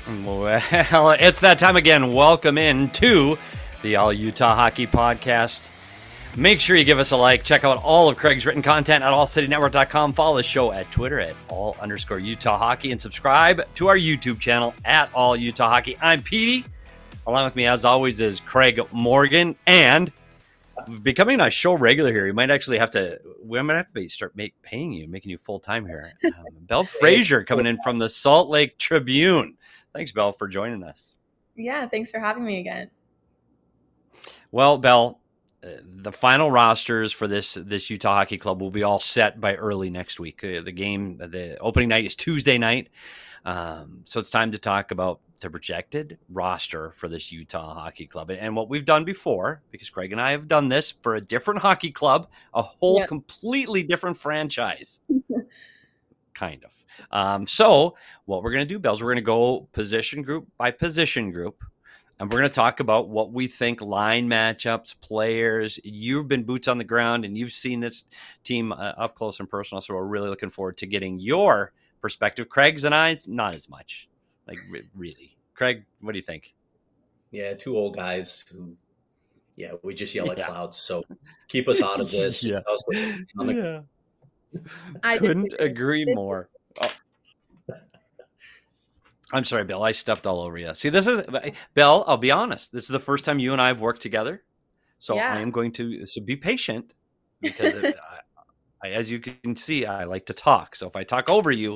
Well, it's that time again. Welcome in to the All Utah Hockey Podcast. Make sure you give us a like. Check out all of Craig's written content at allcitynetwork.com. Follow the show at Twitter at all_Utah Hockey and subscribe to our YouTube channel at All Utah Hockey. I'm Petey. Along with me, as always, is Craig Morgan. And becoming a show regular here, we might have to start paying you, making you full-time here. Belle Frazier coming in from the Salt Lake Tribune. Thanks, Belle, for joining us. Yeah, thanks for having me again. Well, Belle, the final rosters for this Utah Hockey Club will be all set by early next week. The opening night is Tuesday night. So it's time to talk about the projected roster for this Utah Hockey Club. And what we've done before, because Craig and I have done this for a different hockey club, a whole completely different franchise. Kind of. So what we're going to do, Belle, is we're going to go position group by position group. And we're going to talk about what we think line matchups, players. You've been boots on the ground, and you've seen this team up close and personal. So we're really looking forward to getting your perspective. Craig's and I's, not as much. Like, really. Craig, what do you think? Yeah, two old guys who, we just yell at clouds. So keep us out of this. I couldn't agree more. Oh. I'm sorry, Bill. I stepped all over you. See, this is Bill. I'll be honest. This is the first time you and I have worked together, so I am going to be patient because, as you can see, I like to talk. So if I talk over you,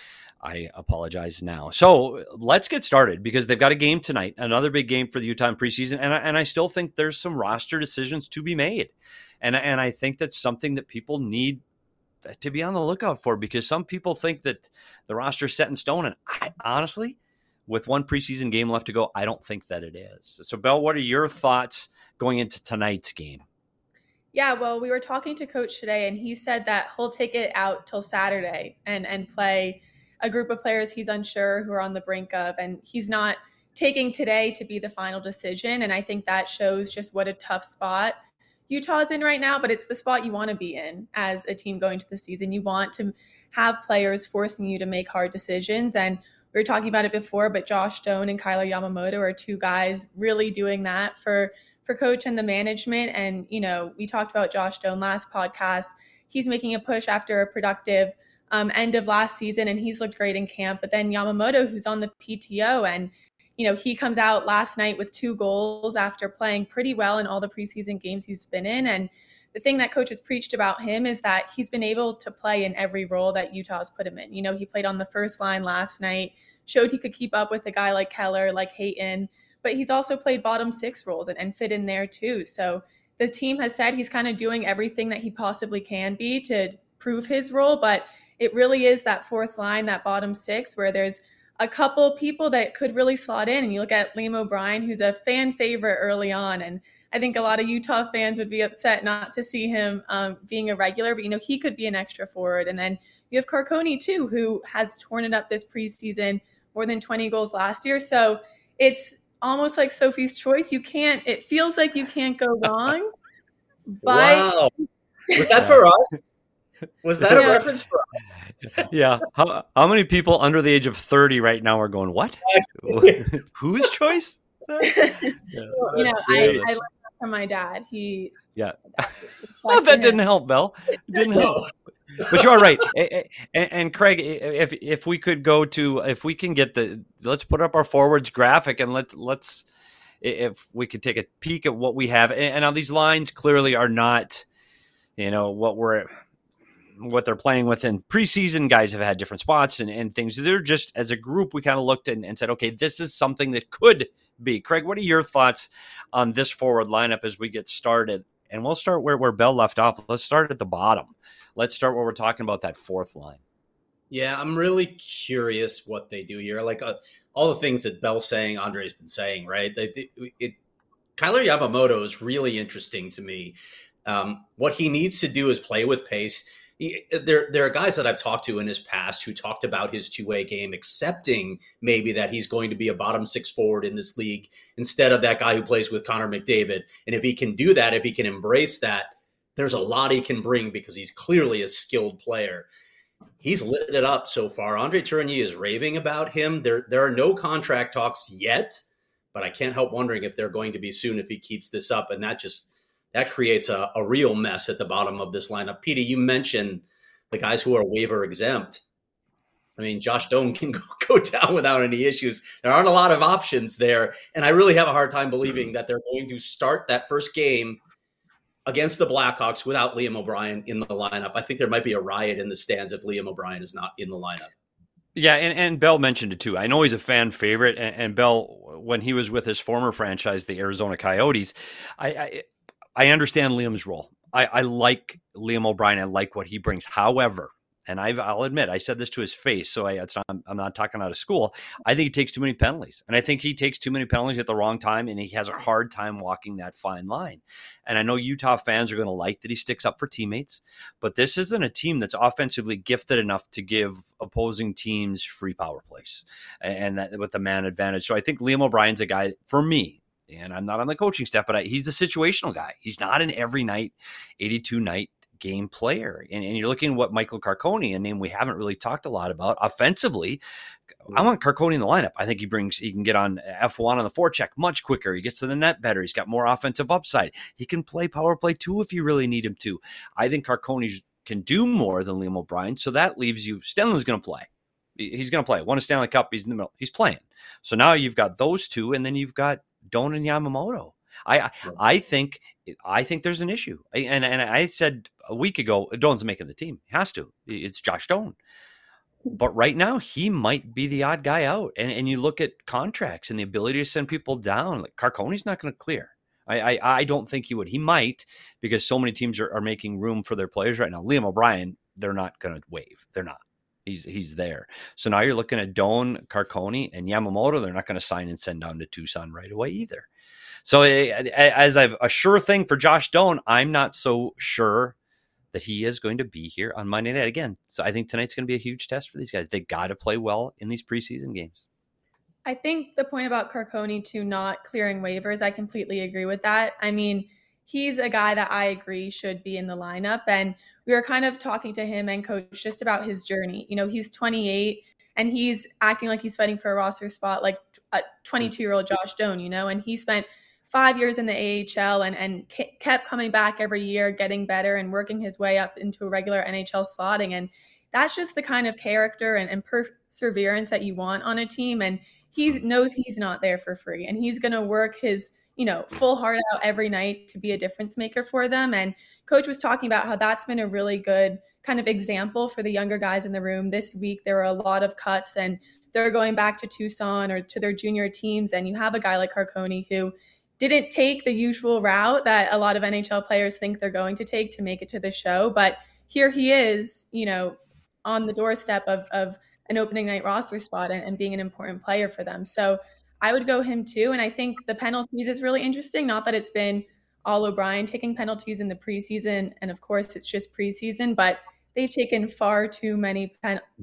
I apologize now. So let's get started because they've got a game tonight, another big game for the Utah in preseason, and I still think there's some roster decisions to be made, and I think that's something that people need to be on the lookout for because some people think that the roster is set in stone. And I honestly, with one preseason game left to go, I don't think that it is. So Belle, what are your thoughts going into tonight's game? Yeah, well, we were talking to Coach today and he said that he'll take it out till Saturday and play a group of players he's unsure who are on the brink of. And he's not taking today to be the final decision. And I think that shows just what a tough spot Utah's in right now, but it's the spot you want to be in as a team going to the season. You want to have players forcing you to make hard decisions. And we were talking about it before, but Josh Doan and Kyler Yamamoto are two guys really doing that for Coach and the management. And, we talked about Josh Doan last podcast. He's making a push after a productive end of last season, and he's looked great in camp. But then Yamamoto, who's on the PTO, and he comes out last night with 2 goals after playing pretty well in all the preseason games he's been in. And the thing that Coach has preached about him is that he's been able to play in every role that Utah's put him in. He played on the first line last night, showed he could keep up with a guy like Keller, like Hayton, but he's also played bottom 6 roles and fit in there too. So the team has said he's kind of doing everything that he possibly can be to prove his role, but it really is that fourth line, that bottom 6, where there's a couple people that could really slot in. And you look at Liam O'Brien, who's a fan favorite early on. And I think a lot of Utah fans would be upset not to see him being a regular, but, he could be an extra forward. And then you have Carconi too, who has torn it up this preseason, more than 20 goals last year. So it's almost like Sophie's choice. It feels like you can't go wrong. But wow. Was that for us? Was that a reference for us? Yeah. How many people under the age of 30 right now are going, what? Whose choice? I learned that from my dad. Oh, that didn't help, Belle. It didn't help. But you are right. And Craig, if we could if we can get let's put up our forwards graphic and let's if we could take a peek at what we have. And now these lines clearly are not, what they're playing with in preseason. Guys have had different spots and things. They're just, as a group, we kind of looked and said, okay, this is something that could be. Craig, what are your thoughts on this forward lineup as we get started? And we'll start where Belle left off. Let's start at the bottom. Let's start where we're talking about that fourth line. Yeah, I'm really curious what they do here. Like all the things that Belle's saying, Andre's been saying, right? Kyler Yamamoto is really interesting to me. What he needs to do is play with pace. There are guys that I've talked to in his past who talked about his two-way game, accepting maybe that he's going to be a bottom 6 forward in this league instead of that guy who plays with Connor McDavid. And if he can do that, if he can embrace that, there's a lot he can bring because he's clearly a skilled player. He's lit it up so far. Andre Tourigny is raving about him. There are no contract talks yet, but I can't help wondering if they're going to be soon if he keeps this up. And that creates a real mess at the bottom of this lineup. Petey, you mentioned the guys who are waiver exempt. I mean, Josh Doan can go down without any issues. There aren't a lot of options there. And I really have a hard time believing that they're going to start that first game against the Blackhawks without Liam O'Brien in the lineup. I think there might be a riot in the stands if Liam O'Brien is not in the lineup. Yeah, and Bell mentioned it too. I know he's a fan favorite, and Bell, when he was with his former franchise, the Arizona Coyotes, I understand Liam's role. I like Liam O'Brien. I like what he brings. However, and I'll admit, I said this to his face, so I'm not talking out of school. I think he takes too many penalties. And I think he takes too many penalties at the wrong time, and he has a hard time walking that fine line. And I know Utah fans are going to like that he sticks up for teammates, but this isn't a team that's offensively gifted enough to give opposing teams free power plays and that with the man advantage. So I think Liam O'Brien's a guy, for me, and I'm not on the coaching staff, but he's a situational guy. He's not an every night, 82-night game player. And you're looking at what Michael Carcone, a name we haven't really talked a lot about offensively. I want Carcone in the lineup. I think he can get on F1 on the forecheck much quicker. He gets to the net better. He's got more offensive upside. He can play power play too if you really need him to. I think Carcone can do more than Liam O'Brien. So that leaves you, Stenlund's going to play. He's going to play. Won a Stanley Cup. He's in the middle. He's playing. So now you've got those two, and then you've got Doan and Yamamoto. I think there's an issue. And I said a week ago, Doan's making the team. He has to. It's Josh Doan. But right now, he might be the odd guy out. And you look at contracts and the ability to send people down. Like Carcone's not going to clear. I don't think he would. He might, because so many teams are making room for their players right now. Liam O'Brien, they're not going to waive. They're not. He's there. So now you're looking at Doan, Carcone, and Yamamoto. They're not going to sign and send down to Tucson right away either. So as I've a sure thing for Josh Doan, I'm not so sure that he is going to be here on Monday night again. So I think tonight's going to be a huge test for these guys. They got to play well in these preseason games. I think the point about Carcone to not clearing waivers, I completely agree with that. I mean, he's a guy that I agree should be in the lineup. And we were kind of talking to him and coach just about his journey. You know, he's 28 and he's acting like he's fighting for a roster spot like a 22-year-old Josh Doan, you know, and he spent 5 years in the AHL and kept coming back every year, getting better and working his way up into a regular NHL slotting. And that's just the kind of character and perseverance that you want on a team. And he knows he's not there for free, and he's going to work his, full heart out every night to be a difference maker for them. And coach was talking about how that's been a really good kind of example for the younger guys in the room. This week, there were a lot of cuts and they're going back to Tucson or to their junior teams. And you have a guy like Carcone who didn't take the usual route that a lot of NHL players think they're going to take to make it to the show. But here he is, on the doorstep of an opening night roster spot and being an important player for them. So I would go him too. And I think the penalties is really interesting. Not that it's been all O'Brien taking penalties in the preseason. And of course it's just preseason, but they've taken far too many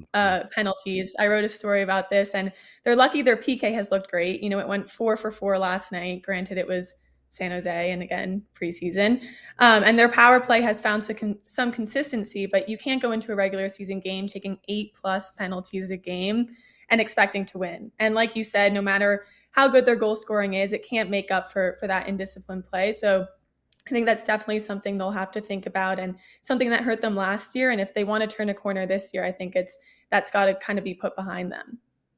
penalties. I wrote a story about this and they're lucky their PK has looked great. It went 4 for 4 last night. Granted, it was San Jose and again, preseason. And their power play has found some consistency, but you can't go into a regular season game taking 8+ penalties a game and expecting to win. And like you said, no matter how good their goal scoring is, it can't make up for that indisciplined play. So I think that's definitely something they'll have to think about and something that hurt them last year. And if they want to turn a corner this year, I think that's got to kind of be put behind them.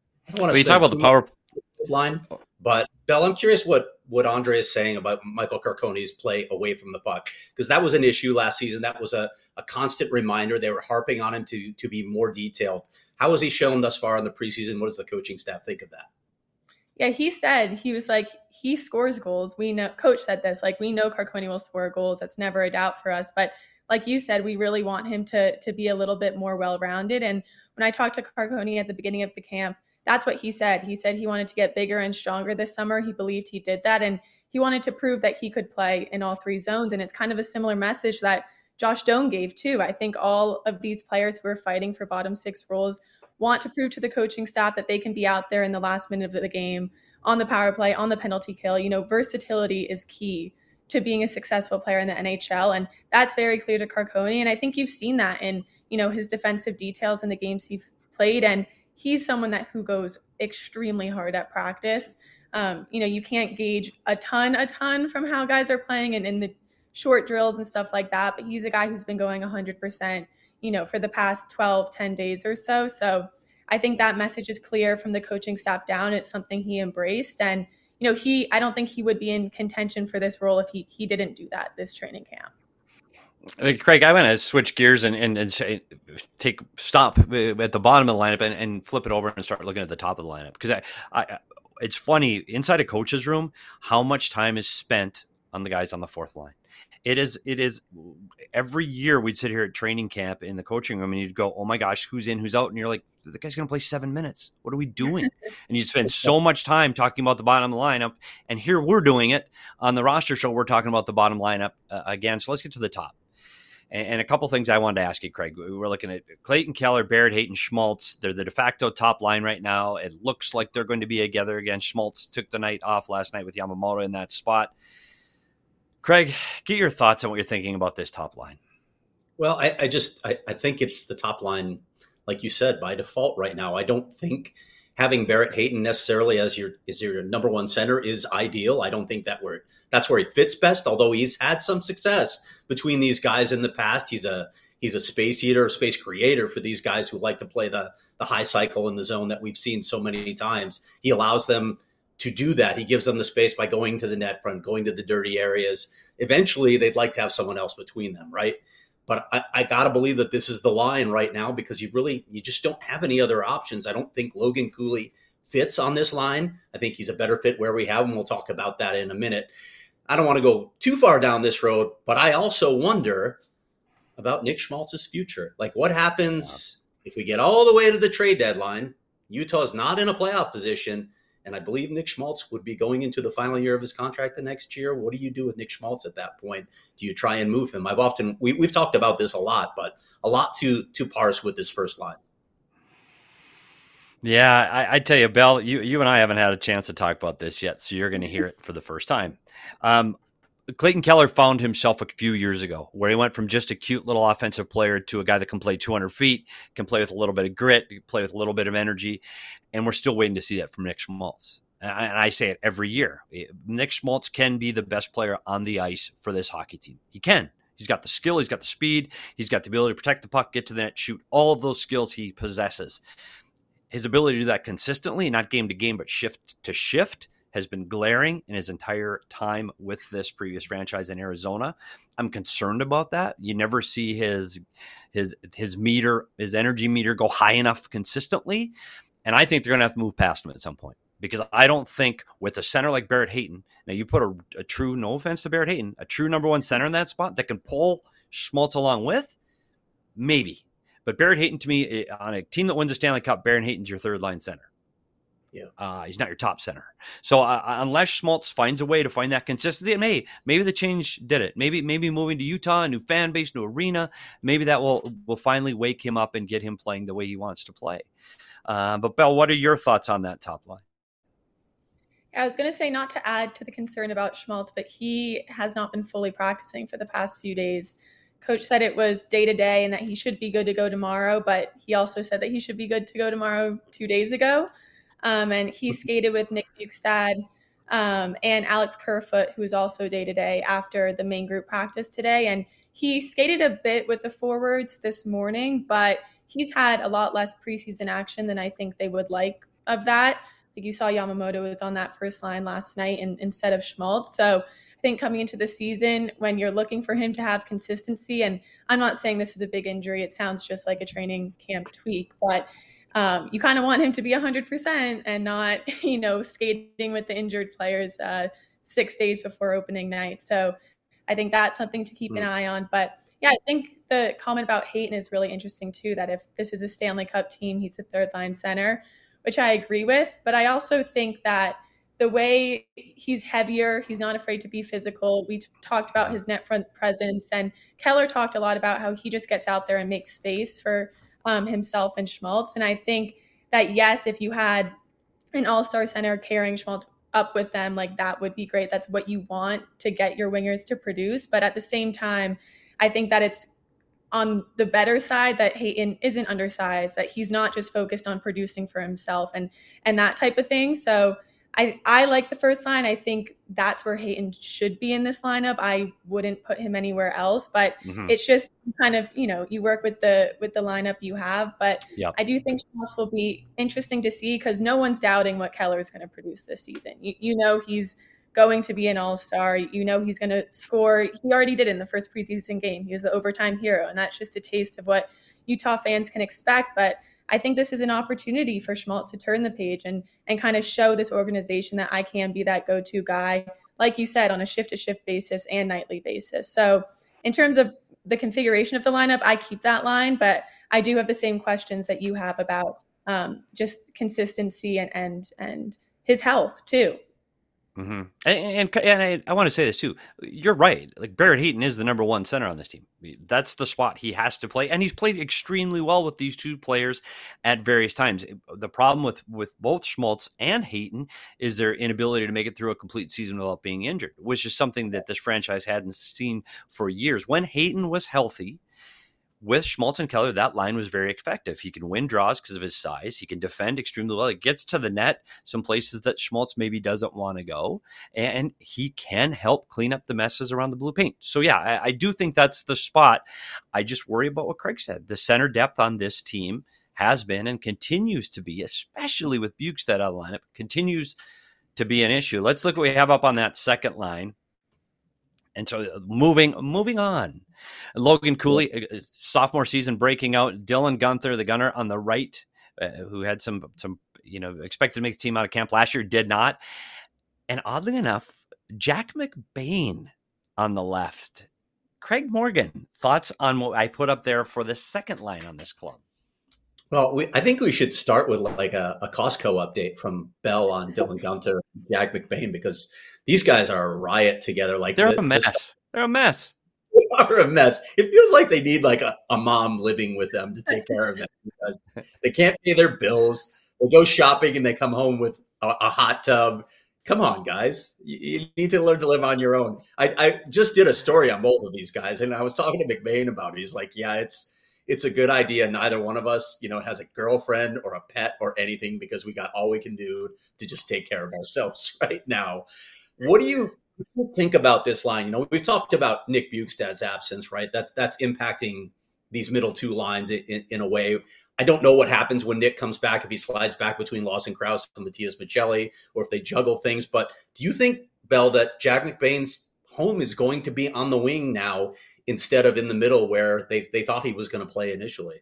You talk about the power line, but Bell, I'm curious what Andre is saying about Michael Carcone's play away from the puck, because that was an issue last season. That was a constant reminder. They were harping on him to be more detailed. How has he shown thus far in the preseason? What does the coaching staff think of that? Yeah, he said, he was like, he scores goals. We know, coach said this, like, we know Carcone will score goals. That's never a doubt for us. But like you said, we really want him to be a little bit more well-rounded. And when I talked to Carcone at the beginning of the camp, that's what he said. He said he wanted to get bigger and stronger this summer. He believed he did that. And he wanted to prove that he could play in all 3 zones. And it's kind of a similar message that Josh Doan gave too. I think all of these players who are fighting for bottom 6 roles want to prove to the coaching staff that they can be out there in the last minute of the game, on the power play, on the penalty kill. Versatility is key to being a successful player in the NHL. And that's very clear to Carcone. And I think you've seen that in, his defensive details in the games he's played. And he's someone who goes extremely hard at practice. You can't gauge a ton from how guys are playing and in the short drills and stuff like that. But he's a guy who's been going 100%, for the past 10 days or so. So I think that message is clear from the coaching staff down. It's something he embraced. And, I don't think he would be in contention for this role if he didn't do that this training camp. Craig, I want to switch gears and say, stop at the bottom of the lineup and flip it over and start looking at the top of the lineup. Because it's funny, inside a coach's room, how much time is spent on the guys on the fourth line. It is every year we'd sit here at training camp in the coaching room and you'd go, oh my gosh, who's in, who's out? And you're like, the guy's going to play 7 minutes. What are we doing? And you spend so much time talking about the bottom of the lineup. And here we're doing it on the roster show. We're talking about the bottom lineup again. So let's get to the top. And a couple things I wanted to ask you, Craig. We're looking at Clayton Keller, Barrett Hayton, Schmaltz. They're the de facto top line right now. It looks like they're going to be together again. Schmaltz took the night off last night with Yamamoto in that spot. Craig, get your thoughts on what you're thinking about this top line. Well, I think it's the top line, like you said, by default right now. I don't think having Barrett Hayton necessarily as your number one center is ideal. I don't think that's where he fits best, although he's had some success between these guys in the past. He's a space eater, a space creator for these guys who like to play the high cycle in the zone that we've seen so many times. He allows them to do that. He gives them the space by going to the net front, going to the dirty areas. Eventually, they'd like to have someone else between them, right? But I got to believe that this is the line right now because you just don't have any other options. I don't think Logan Cooley fits on this line. I think he's a better fit where we have him. We'll talk about that in a minute. I don't want to go too far down this road, but I also wonder about Nick Schmaltz's future. Like what happens if we get all the way to the trade deadline? Utah's not in a playoff position. And I believe Nick Schmaltz would be going into the final year of his contract the next year. What do you do with Nick Schmaltz at that point? Do you try and move him? We've talked about this a lot, but a lot to parse with this first line. Yeah, I tell you, Bell, you and I haven't had a chance to talk about this yet, so you're going to hear it for the first time. Clayton Keller found himself a few years ago where he went from just a cute little offensive player to a guy that can play 200 feet, can play with a little bit of grit, can play with a little bit of energy. And we're still waiting to see that from Nick Schmaltz. And I say it every year. Nick Schmaltz can be the best player on the ice for this hockey team. He can. He's got the skill. He's got the speed. He's got the ability to protect the puck, get to the net, shoot. All of those skills he possesses. His ability to do that consistently, not game to game, but shift to shift, has been glaring in his entire time with this previous franchise in Arizona. I'm concerned about that. You never see his meter, his energy meter go high enough consistently. And I think they're going to have to move past him at some point because I don't think with a center like Barrett Hayton, now you put a true, no offense to Barrett Hayton, a true number one center in that spot that can pull Schmaltz along with, maybe. But Barrett Hayton, to me, on a team that wins the Stanley Cup, Barrett Hayton's your third line center. Yeah, he's not your top center. So unless Schmaltz finds a way to find that consistency, and maybe the change did it. Maybe moving to Utah, a new fan base, new arena, maybe that will finally wake him up and get him playing the way he wants to play. But Belle, what are your thoughts on that top line? I was going to say not to add to the concern about Schmaltz, but he has not been fully practicing for the past few days. Coach said it was day to day and that he should be good to go tomorrow, but he also said that he should be good to go tomorrow 2 days ago. And he skated with Nick Bukestad and Alex Kerfoot, who is also day-to-day after the main group practice today. And he skated a bit with the forwards this morning, but he's had a lot less preseason action than I think they would like of that. Like you saw Yamamoto was on that first line last night instead of Schmaltz. So I think coming into the season, when you're looking for him to have consistency, and I'm not saying this is a big injury, it sounds just like a training camp tweak, but you kind of want him to be 100% and not, skating with the injured players 6 days before opening night. So I think that's something to keep an eye on. But yeah, I think the comment about Hayton is really interesting too, that if this is a Stanley Cup team, he's a third line center, which I agree with. But I also think that the way he's heavier, he's not afraid to be physical. We've talked about his net front presence, and Keller talked a lot about how he just gets out there and makes space for himself and Schmaltz. And I think that, yes, if you had an all-star center carrying Schmaltz up with them, like that would be great. That's what you want to get your wingers to produce. But at the same time, I think that it's on the better side that Hayton isn't undersized, that he's not just focused on producing for himself and that type of thing. So I like the first line. I think that's where Hayton should be in this lineup. I wouldn't put him anywhere else, but it's just kind of, you work with the lineup you have. But I do think Schmaltz will be interesting to see because no one's doubting what Keller is going to produce this season. He's going to be an all-star. He's going to score. He already did it in the first preseason game. He was the overtime hero, and that's just a taste of what Utah fans can expect. But I think this is an opportunity for Schmaltz to turn the page and kind of show this organization that I can be that go-to guy, like you said, on a shift-to-shift basis and nightly basis. So in terms of the configuration of the lineup, I keep that line, but I do have the same questions that you have about just consistency and his health too. Mm-hmm. And I want to say this too. You're right. Like Barrett Hayton is the number one center on this team. That's the spot he has to play, and he's played extremely well with these two players at various times. The problem with both Schmaltz and Hayton is their inability to make it through a complete season without being injured, which is something that this franchise hadn't seen for years. When Hayton was healthy, with Schmaltz and Keller, that line was very effective. He can win draws because of his size. He can defend extremely well. It gets to the net, some places that Schmaltz maybe doesn't want to go, and he can help clean up the messes around the blue paint. So, yeah, I do think that's the spot. I just worry about what Craig said. The center depth on this team has been and continues to be, especially with Bjugstad out of the lineup, continues to be an issue. Let's look what we have up on that second line. And so moving on, Logan Cooley, sophomore season breaking out. Dylan Guenther, the gunner on the right, who had some expected to make the team out of camp last year, did not. And oddly enough, Jack McBain on the left. Craig Morgan, thoughts on what I put up there for the second line on this club? Well, I think we should start with like a Costco update from Bell on Dylan Guenther and Jack McBain, because these guys are a riot together. Like they're a mess. They're a mess. They are a mess. It feels like they need like a mom living with them to take care of them because they can't pay their bills. They go shopping and they come home with a hot tub. Come on, guys. You need to learn to live on your own. I just did a story on both of these guys, and I was talking to McBain about it. He's like, yeah, it's a good idea. Neither one of us, has a girlfriend or a pet or anything because we got all we can do to just take care of ourselves right now. What do you think about this line? We've talked about Nick Bjugstad's absence, right? That's impacting these middle two lines in a way. I don't know what happens when Nick comes back, if he slides back between Lawson Krause and Matias Maccelli, or if they juggle things. But do you think, Bell, that Jack McBain's home is going to be on the wing now instead of in the middle where they thought he was going to play initially?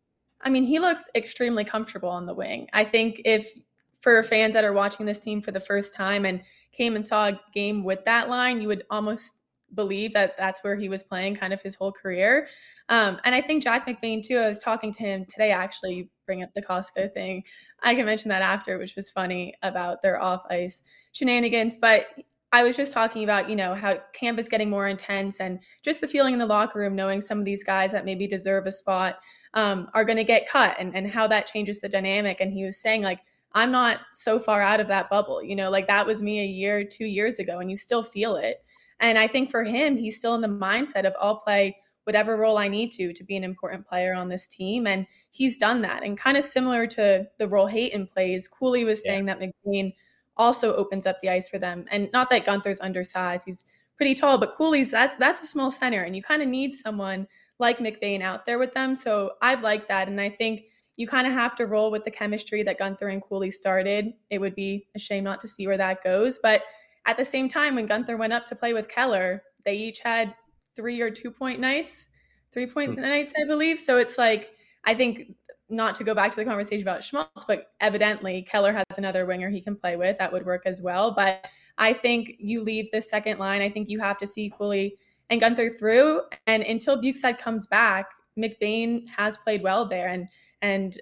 I mean, he looks extremely comfortable on the wing. I think if for fans that are watching this team for the first time and came and saw a game with that line, you would almost believe that that's where he was playing kind of his whole career. And I think Jack McBain, too, I was talking to him today, actually, you bring up the Costco thing. I can mention that after, which was funny about their off-ice shenanigans. But I was just talking about, how camp is getting more intense and just the feeling in the locker room, knowing some of these guys that maybe deserve a spot are going to get cut and how that changes the dynamic. And he was saying, like, I'm not so far out of that bubble, like that was me a year, 2 years ago, and you still feel it. And I think for him, he's still in the mindset of I'll play whatever role I need to be an important player on this team. And he's done that. And kind of similar to the role Hayton plays, Cooley was saying that McBain also opens up the ice for them. And not that Guenther's undersized, he's pretty tall, but Cooley's that's a small center. And you kind of need someone like McBain out there with them. So I've liked that. And I think you kind of have to roll with the chemistry that Guenther and Cooley started. It would be a shame not to see where that goes. But at the same time, when Guenther went up to play with Keller, they each had 3 or 2 point nights, 3 points nights, I believe. So it's like, I think, not to go back to the conversation about Schmaltz, but evidently Keller has another winger he can play with. That would work as well. But I think you leave the second line. I think you have to see Cooley and Guenther through. And until Bjugstad comes back, McBain has played well there. And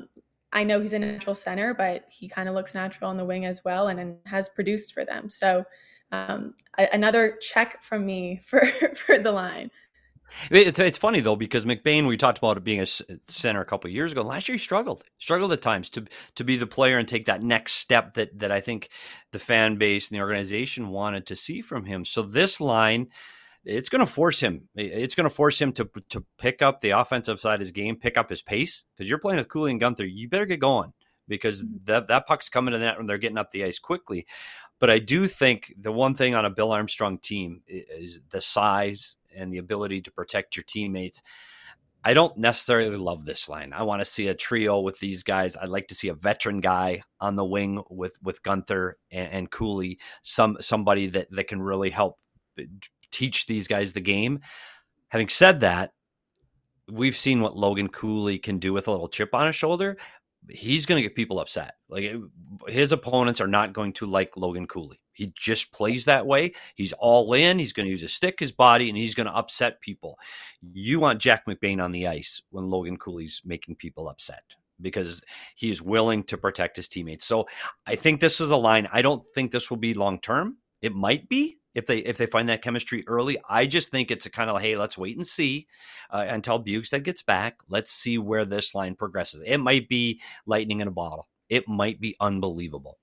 I know he's a natural center, but he kind of looks natural on the wing as well and has produced for them. So another check from me for the line. It's funny though, because McBain, we talked about it being a center a couple of years ago. Last year he struggled at times to be the player and take that next step that I think the fan base and the organization wanted to see from him. So this line, it's going to force him. It's going to force him to pick up the offensive side of his game, pick up his pace, because you're playing with Cooley and Gunther. You better get going, because that puck's coming to the net when they're getting up the ice quickly. But I do think the one thing on a Bill Armstrong team is the size and the ability to protect your teammates. I don't necessarily love this line. I want to see a trio with these guys. I'd like to see a veteran guy on the wing with Gunther and Cooley, somebody that can really help teach these guys the game. Having said that, we've seen what Logan Cooley can do with a little chip on his shoulder. He's going to get people upset. Like, his opponents are not going to like Logan Cooley. He just plays that way. He's all in. He's going to use his stick, his body, and he's going to upset people. You want Jack McBain on the ice when Logan Cooley's making people upset, because he is willing to protect his teammates. So I think this is a line. I don't think this will be long-term. It might be if they find that chemistry early. I just think it's a kind of, hey, let's wait and see until Bjugstad gets back. Let's see where this line progresses. It might be lightning in a bottle. It might be unbelievable.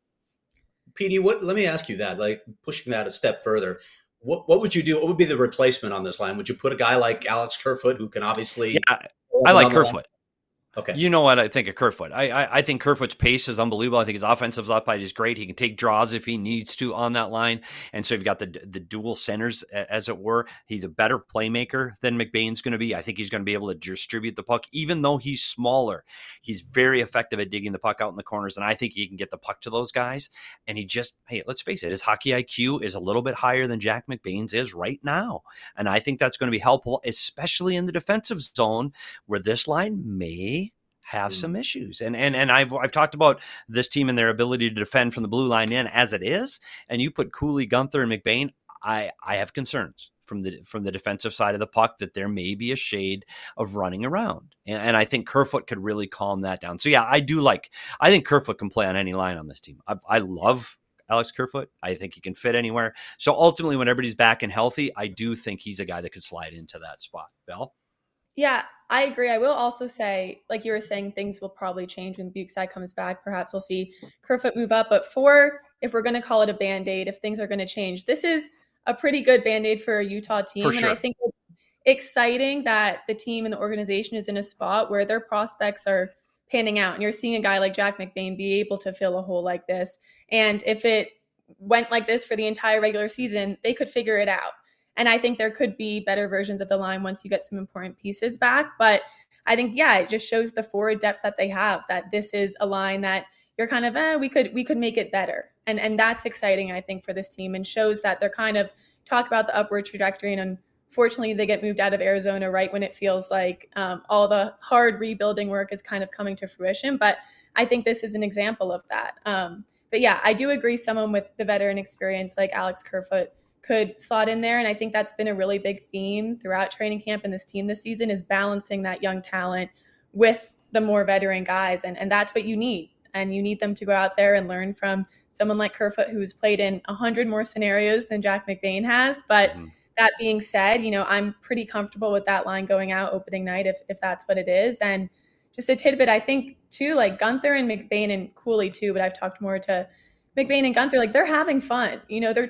PD, let me ask you that, like, pushing that a step further. What would you do? What would be the replacement on this line? Would you put a guy like Alex Kerfoot, who can obviously... Yeah, I like Kerfoot. Okay. You know what I think of Kerfoot. I think Kerfoot's pace is unbelievable. I think his offensive upside is great. He can take draws if he needs to on that line. And so you've got the dual centers, as it were. He's a better playmaker than McBain's going to be. I think he's going to be able to distribute the puck. Even though he's smaller, he's very effective at digging the puck out in the corners. And I think he can get the puck to those guys. And he just, hey, let's face it, his hockey IQ is a little bit higher than Jack McBain's is right now. And I think that's going to be helpful, especially in the defensive zone, where this line may have some issues. And I've talked about this team and their ability to defend from the blue line in as it is. And you put Cooley, Gunther, and McBain, I have concerns from the defensive side of the puck that there may be a shade of running around. And I think Kerfoot could really calm that down. So yeah, I think Kerfoot can play on any line on this team. I love Alex Kerfoot. I think he can fit anywhere. So ultimately, when everybody's back and healthy, I do think he's a guy that could slide into that spot. Belle? Yeah, I agree. I will also say, like you were saying, things will probably change when Bjugstad comes back. Perhaps we'll see Kerfoot move up. But if we're going to call it a Band-Aid, if things are going to change, this is a pretty good Band-Aid for a Utah team. For sure. And I think it's exciting that the team and the organization is in a spot where their prospects are panning out. And you're seeing a guy like Jack McBain be able to fill a hole like this. And if it went like this for the entire regular season, they could figure it out. And I think there could be better versions of the line once you get some important pieces back. But I think, yeah, it just shows the forward depth that they have, that this is a line that you're kind of, we could make it better. And that's exciting, I think, for this team, and shows that they're kind of talk about the upward trajectory. And unfortunately, they get moved out of Arizona right when it feels like all the hard rebuilding work is kind of coming to fruition. But I think this is an example of that. But yeah, I do agree someone with the veteran experience like Alex Kerfoot could slot in there. And I think that's been a really big theme throughout training camp and this team this season, is balancing that young talent with the more veteran guys. And that's what you need. And you need them to go out there and learn from someone like Kerfoot, who's played in 100 more scenarios than Jack McBain has. But that being said, I'm pretty comfortable with that line going out opening night if that's what it is. And just a tidbit, I think too, like Gunther and McBain and Cooley too, but I've talked more to McBain and Gunther, like, they're having fun. They're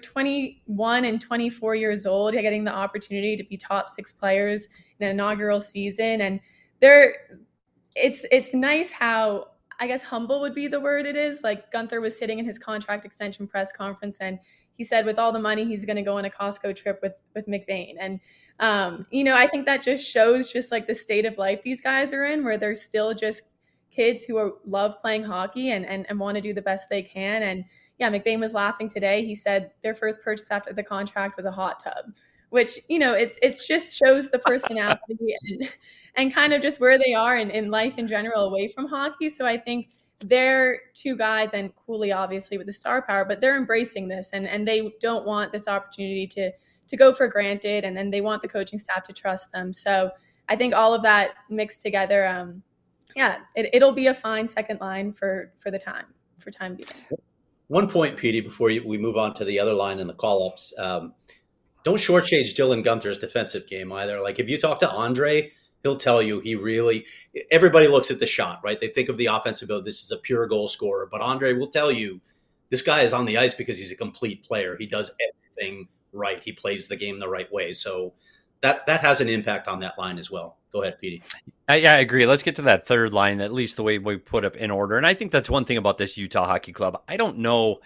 21 and 24 years old, getting the opportunity to be top 6 players in an inaugural season. And it's nice how, I guess, humble would be the word it is. Like, Gunther was sitting in his contract extension press conference, and he said with all the money, he's going to go on a Costco trip with McBain. And, I think that just shows just like the state of life these guys are in, where they're still just kids who love playing hockey and want to do the best they can. And yeah, McBain was laughing today. He said their first purchase after the contract was a hot tub, which, it's just shows the personality and kind of just where they are in life in general away from hockey. So I think they're two guys, and Cooley obviously with the star power, but they're embracing this and they don't want this opportunity to go for granted. And then they want the coaching staff to trust them. So I think all of that mixed together, it'll be a fine second line for time being. One point, Petey, before we move on to the other line and the call-ups. Don't don't shortchange Dylan Gunther's defensive game either. Like if you talk to Andre, he'll tell you everybody looks at the shot, right? They think of the offensive ability. This is a pure goal scorer. But Andre will tell you this guy is on the ice because he's a complete player. He does everything right. He plays the game the right way. So that has an impact on that line as well. Go ahead, Petey. I agree. Let's get to that third line, at least the way we put up in order. And I think that's one thing about this Utah Hockey Club. I don't know.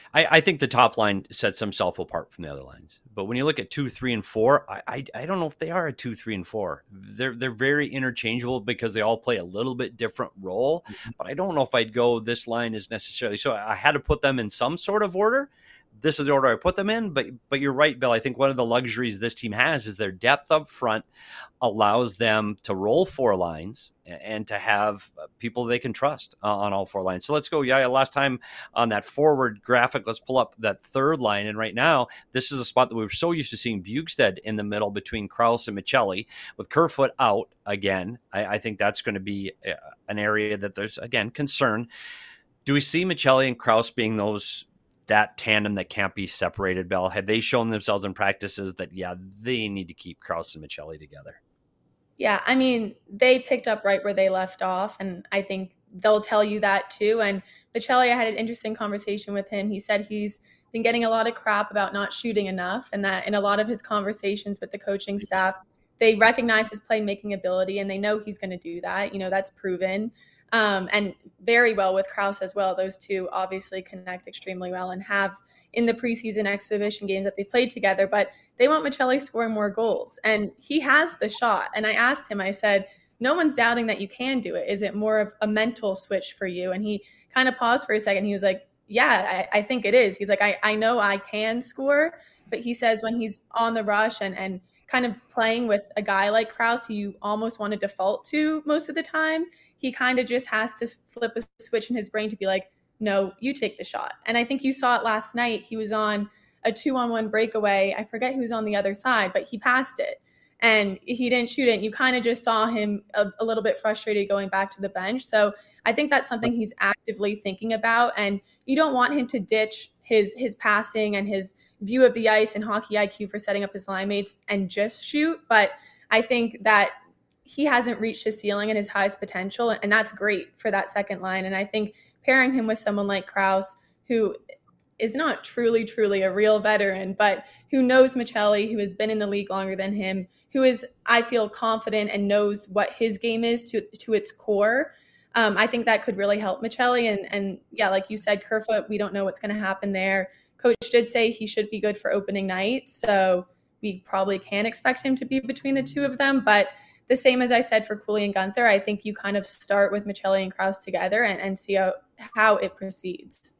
I think the top line sets themselves apart from the other lines. But when you look at 2, 3, and 4, I don't know if they are a 2, 3, and 4. They're very interchangeable because they all play a little bit different role. But I don't know if I'd go this line is necessarily. So I had to put them in some sort of order. This is the order I put them in, but you're right, Bill. I think one of the luxuries this team has is their depth up front allows them to roll 4 lines and to have people they can trust on all 4 lines. So let's go. Yeah, last time on that forward graphic, let's pull up that third line. And right now, this is a spot that we were so used to seeing Bjugstad in the middle between Krause and Michelli. With Kerfoot out again, I think that's going to be an area that there's, again, concern. Do we see Michelli and Krause being that tandem that can't be separated, Bell? Have they shown themselves in practices that, they need to keep Krause and Michelli together? Yeah, I mean, they picked up right where they left off, and I think they'll tell you that too. And Michelli, I had an interesting conversation with him. He said he's been getting a lot of crap about not shooting enough, and that in a lot of his conversations with the coaching staff, they recognize his playmaking ability, and they know he's going to do that. That's proven. And very well with Krause as well. Those two obviously connect extremely well and have in the preseason exhibition games that they've played together, but they want Michelli scoring more goals. And he has the shot. And I asked him, I said, no one's doubting that you can do it. Is it more of a mental switch for you? And he kind of paused for a second. He was like, yeah, I think it is. He's like, I know I can score, but he says when he's on the rush and kind of playing with a guy like Krause, who you almost want to default to most of the time, he kind of just has to flip a switch in his brain to be like, no, you take the shot. And I think you saw it last night. He was on a 2-on-1 breakaway. I forget who was on the other side, but he passed it and he didn't shoot it. And you kind of just saw him a little bit frustrated going back to the bench. So I think that's something he's actively thinking about. And you don't want him to ditch his passing and his view of the ice and hockey IQ for setting up his line mates and just shoot. But I think that he hasn't reached his ceiling and his highest potential, and that's great for that second line. And I think pairing him with someone like Krause, who is not truly a real veteran, but who knows Michelli, who has been in the league longer than him, who is, I feel, confident and knows what his game is to its core. I think that could really help Michelli. And yeah, like you said, Kerfoot, we don't know what's going to happen there. Coach did say he should be good for opening night, so we probably can expect him to be between the two of them. But the same as I said for Cooley and Gunther, I think you kind of start with Michelli and Krause together and see how it proceeds.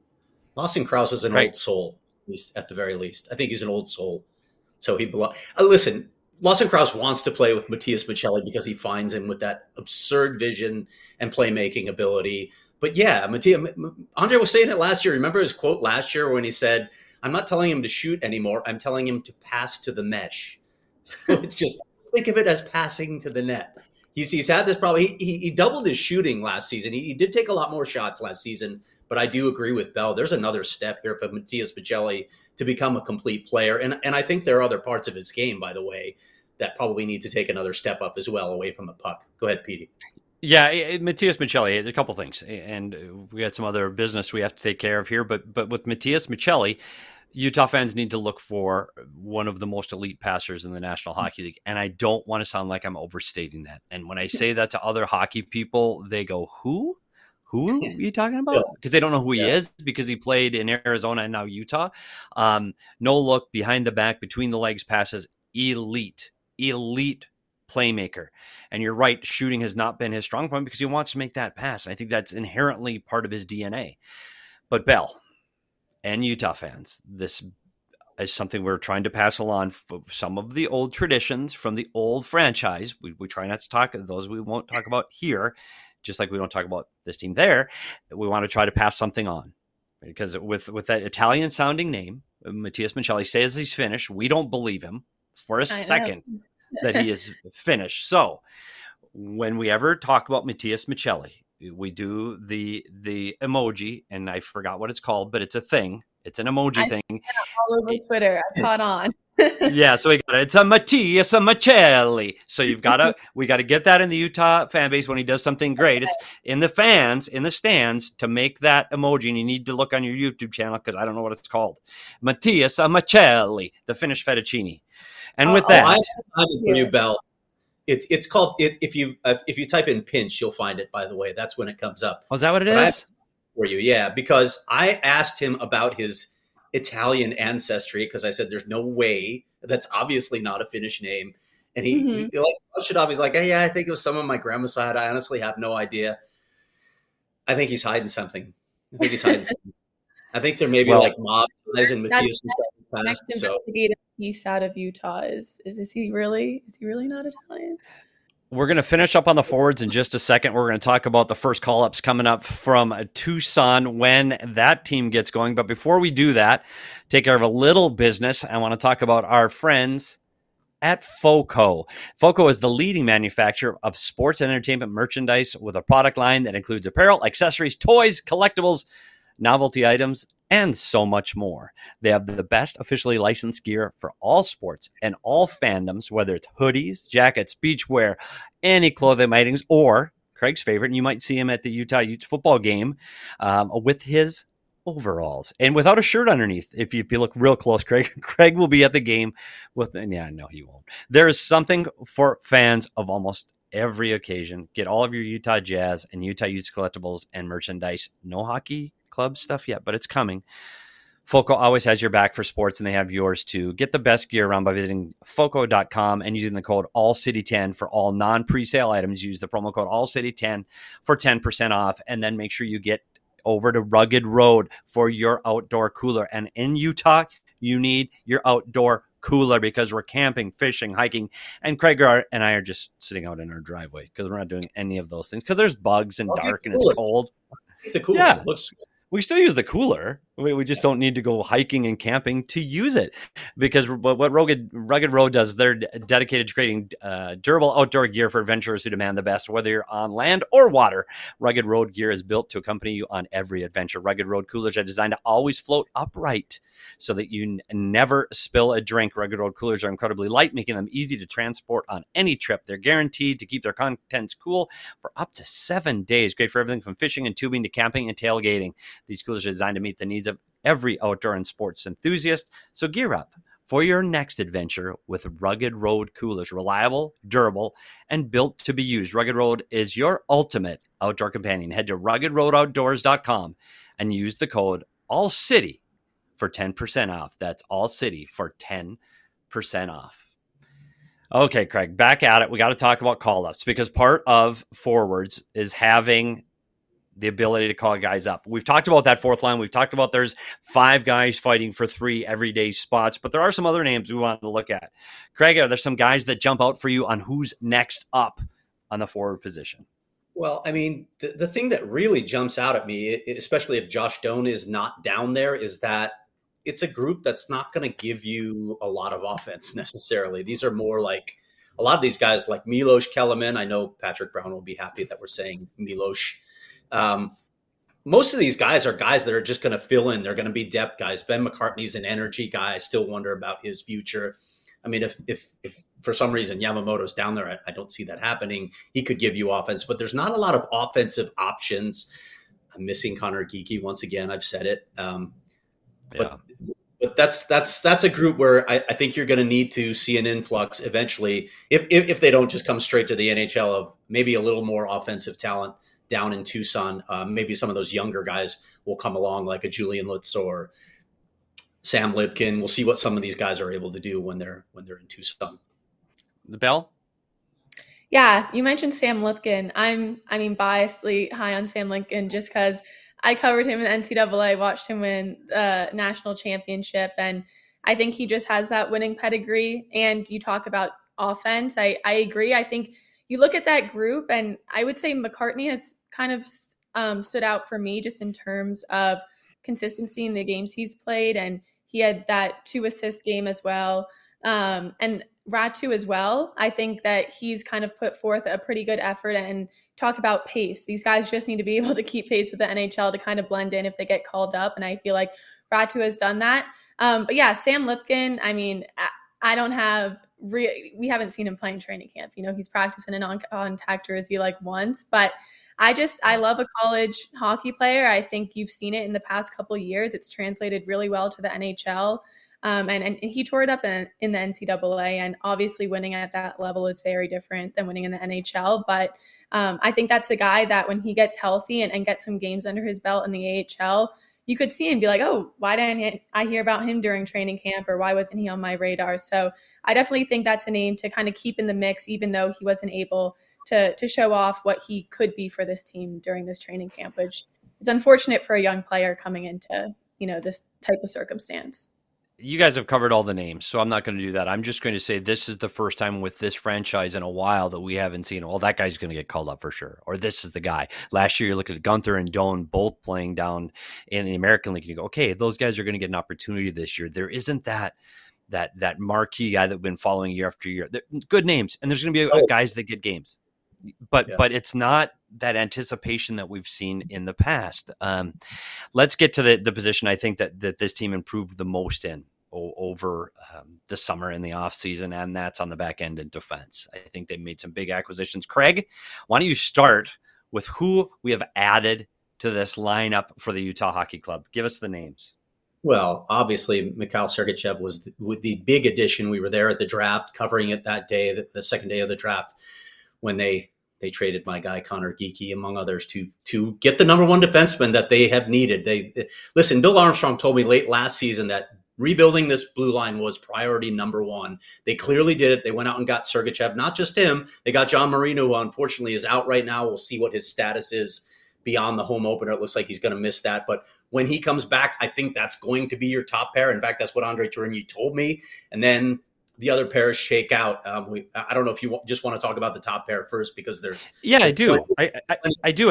Lawson Krause is an old soul, at the very least. I think he's an old soul. So he belongs. Listen, Lawson Krause wants to play with Matias Michelli because he finds him with that absurd vision and playmaking ability. But yeah, Andre was saying it last year. Remember his quote last year when he said, I'm not telling him to shoot anymore. I'm telling him to pass to the mesh. So it's just, think of it as passing to the net. He's had this problem. He doubled his shooting last season. He did take a lot more shots last season, but I do agree with Bell. There's another step here for Matias Michelli to become a complete player. And I think there are other parts of his game, by the way, that probably need to take another step up as well away from the puck. Go ahead, Petey. Yeah, Matias Michelli, a couple things. And we got some other business we have to take care of here. But with Matias Michelli, Utah fans need to look for one of the most elite passers in the National Hockey League. And I don't want to sound like I'm overstating that. And when I say that to other hockey people, they go, who? Who are you talking about? Because they don't know who he is, because he played in Arizona and now Utah. No look, behind the back, between the legs passes, elite playmaker. And you're right, shooting has not been his strong point because he wants to make that pass. And I think that's inherently part of his DNA. But Bell and Utah fans, this is something we're trying to pass along. Some of the old traditions from the old franchise. We try not to talk those. We won't talk about here, just like we don't talk about this team there. We want to try to pass something on, because with that Italian sounding name, Matias Michelli says he's finished. We don't believe him for a second that he is finished. So when we ever talk about Matias Michelli, we do the emoji, and I forgot what it's called, but it's a thing. It's an emoji thing. All over Twitter. I caught on. Yeah, so it's a Mattias Macelli. So we got to get that in the Utah fan base when he does something great. It's in the fans, in the stands, to make that emoji, and you need to look on your YouTube channel because I don't know what it's called. Mattias Macelli, the Finnish fettuccine. And with that, I have it for you, Bell. It's called if you type in pinch, you'll find it. By the way, that's when it comes up. Oh, is that what it is? For you, yeah, because I asked him about his Italian ancestry because I said there's no way, that's obviously not a Finnish name, and he like brushed it off. He's like, hey, yeah, I think it was some of my grandma's side. I honestly have no idea. I think he's hiding something. I think there may be like mob ties in Mattias. Next investigative piece out of Utah is he really not Italian? We're going to finish up on the forwards in just a second. We're going to talk about the first call-ups coming up from Tucson when that team gets going. But before we do that, take care of a little business. I want to talk about our friends at FOCO. FOCO is the leading manufacturer of sports and entertainment merchandise with a product line that includes apparel, accessories, toys, collectibles, novelty items, and so much more. They have the best officially licensed gear for all sports and all fandoms, whether it's hoodies, jackets, beachwear, any clothing items, or Craig's favorite, and you might see him at the Utah Utes football game with his overalls and without a shirt underneath. If you look real close, Craig will be at the game with, and yeah, no, he won't. There is something for fans of almost every occasion. Get all of your Utah Jazz and Utah Utes collectibles and merchandise. No hockey club stuff yet, but it's coming. FOCO always has your back for sports, and they have yours too. Get the best gear around by visiting FOCO.com and using the code ALLCITY10 for all non-presale items. Use the promo code ALLCITY10 for 10% off, and then make sure you get over to Rugged Road for your outdoor cooler. And in Utah, you need your outdoor cooler because we're camping, fishing, hiking, and Craig and I are just sitting out in our driveway because we're not doing any of those things because there's bugs and dark and it's cold. The cooler. Yeah. We still use the cooler. We just don't need to go hiking and camping to use it because what Rugged Road does, they're dedicated to creating durable outdoor gear for adventurers who demand the best, whether you're on land or water. Rugged Road gear is built to accompany you on every adventure. Rugged Road coolers are designed to always float upright so that you never spill a drink. Rugged Road coolers are incredibly light, making them easy to transport on any trip. They're guaranteed to keep their contents cool for up to 7 days. Great for everything from fishing and tubing to camping and tailgating. These coolers are designed to meet the needs of every outdoor and sports enthusiast. So gear up for your next adventure with Rugged Road coolers. Reliable, durable, and built to be used. Rugged Road is your ultimate outdoor companion. Head to ruggedroadoutdoors.com and use the code ALLCITY for 10% off. That's ALLCITY for 10% off. Okay, Craig, back at it. We got to talk about call-ups because part of forwards is having the ability to call guys up. We've talked about that fourth line. We've talked about there's 5 guys fighting for 3 everyday spots, but there are some other names we want to look at. Craig, are there some guys that jump out for you on who's next up on the forward position? Well, I mean, the thing that really jumps out at me, especially if Josh Doan is not down there, is that it's a group that's not going to give you a lot of offense necessarily. These are more like a lot of these guys like Milos Kelemen. I know Patrick Brown will be happy that we're saying Milos. Most of these guys are guys that are just going to fill in. They're going to be depth guys. Ben McCartney's an energy guy. I still wonder about his future. I mean, if for some reason Yamamoto's down there, I don't see that happening. He could give you offense, but there's not a lot of offensive options. I'm missing Connor Geekie once again. I've said it. But that's a group where I think you're going to need to see an influx eventually if they don't just come straight to the NHL of maybe a little more offensive talent down in Tucson. Maybe some of those younger guys will come along like a Julian Lutz or Sam Lipkin. We'll see what some of these guys are able to do when they're in Tucson. The Bell? Yeah, you mentioned Sam Lipkin. I'm biasedly high on Sam Lipkin just because I covered him in NCAA, watched him win the national championship, and I think he just has that winning pedigree. And you talk about offense. I agree. I think you look at that group, and I would say McCartney has kind of stood out for me just in terms of consistency in the games he's played, and he had that 2-assist game as well. And Ratu as well. I think that he's kind of put forth a pretty good effort. And talk about pace. These guys just need to be able to keep pace with the NHL to kind of blend in if they get called up. And I feel like Ratu has done that. But yeah, Sam Lipkin, I mean, I don't have we haven't seen him play in training camp. He's practiced in a non-contact jersey like once, but I love a college hockey player. I think you've seen it in the past couple of years. It's translated really well to the NHL. And he tore it up in the NCAA, and obviously winning at that level is very different than winning in the NHL. But I think that's a guy that when he gets healthy and gets some games under his belt in the AHL, you could see and be like, oh, why didn't I hear about him during training camp, or why wasn't he on my radar? So I definitely think that's a name to kind of keep in the mix, even though he wasn't able to show off what he could be for this team during this training camp, which is unfortunate for a young player coming into, this type of circumstance. You guys have covered all the names, so I'm not going to do that. I'm just going to say this is the first time with this franchise in a while that we haven't seen, well, that guy's going to get called up for sure, or this is the guy. Last year, you look at Gunther and Doan both playing down in the American League, and you go, okay, those guys are going to get an opportunity this year. There isn't that marquee guy that we've been following year after year. They're good names, and there's going to be guys that get games. But it's not that anticipation that we've seen in the past. Let's get to the position I think that this team improved the most in over the summer and the offseason, and that's on the back end in defense. I think they made some big acquisitions. Craig, why don't you start with who we have added to this lineup for the Utah Hockey Club? Give us the names. Well, obviously, Mikhail Sergachev was the big addition. We were there at the draft, covering it that day, the second day of the draft, when they traded my guy Connor Geekie, among others, to get the number one defenseman that they have needed. Listen, Bill Armstrong told me late last season that rebuilding this blue line was priority number one. They clearly did it. They went out and got Sergachev, not just him. They got John Marino, who unfortunately is out right now. We'll see what his status is beyond the home opener. It looks like he's going to miss that. But when he comes back, I think that's going to be your top pair. In fact, that's what Andre Tourigny told me. And then the other pairs shake out. I don't know if you just want to talk about the top pair first, because there's... Yeah, I do. I do.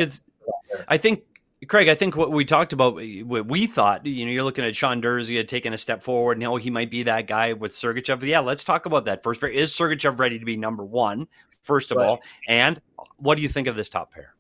I think, Craig, I think what we talked about, what we thought, you're looking at Sean Durzi taking a step forward. And, he might be that guy with Sergachev. Yeah, let's talk about that first pair. Is Sergachev ready to be number one, first of all? And what do you think of this top pair?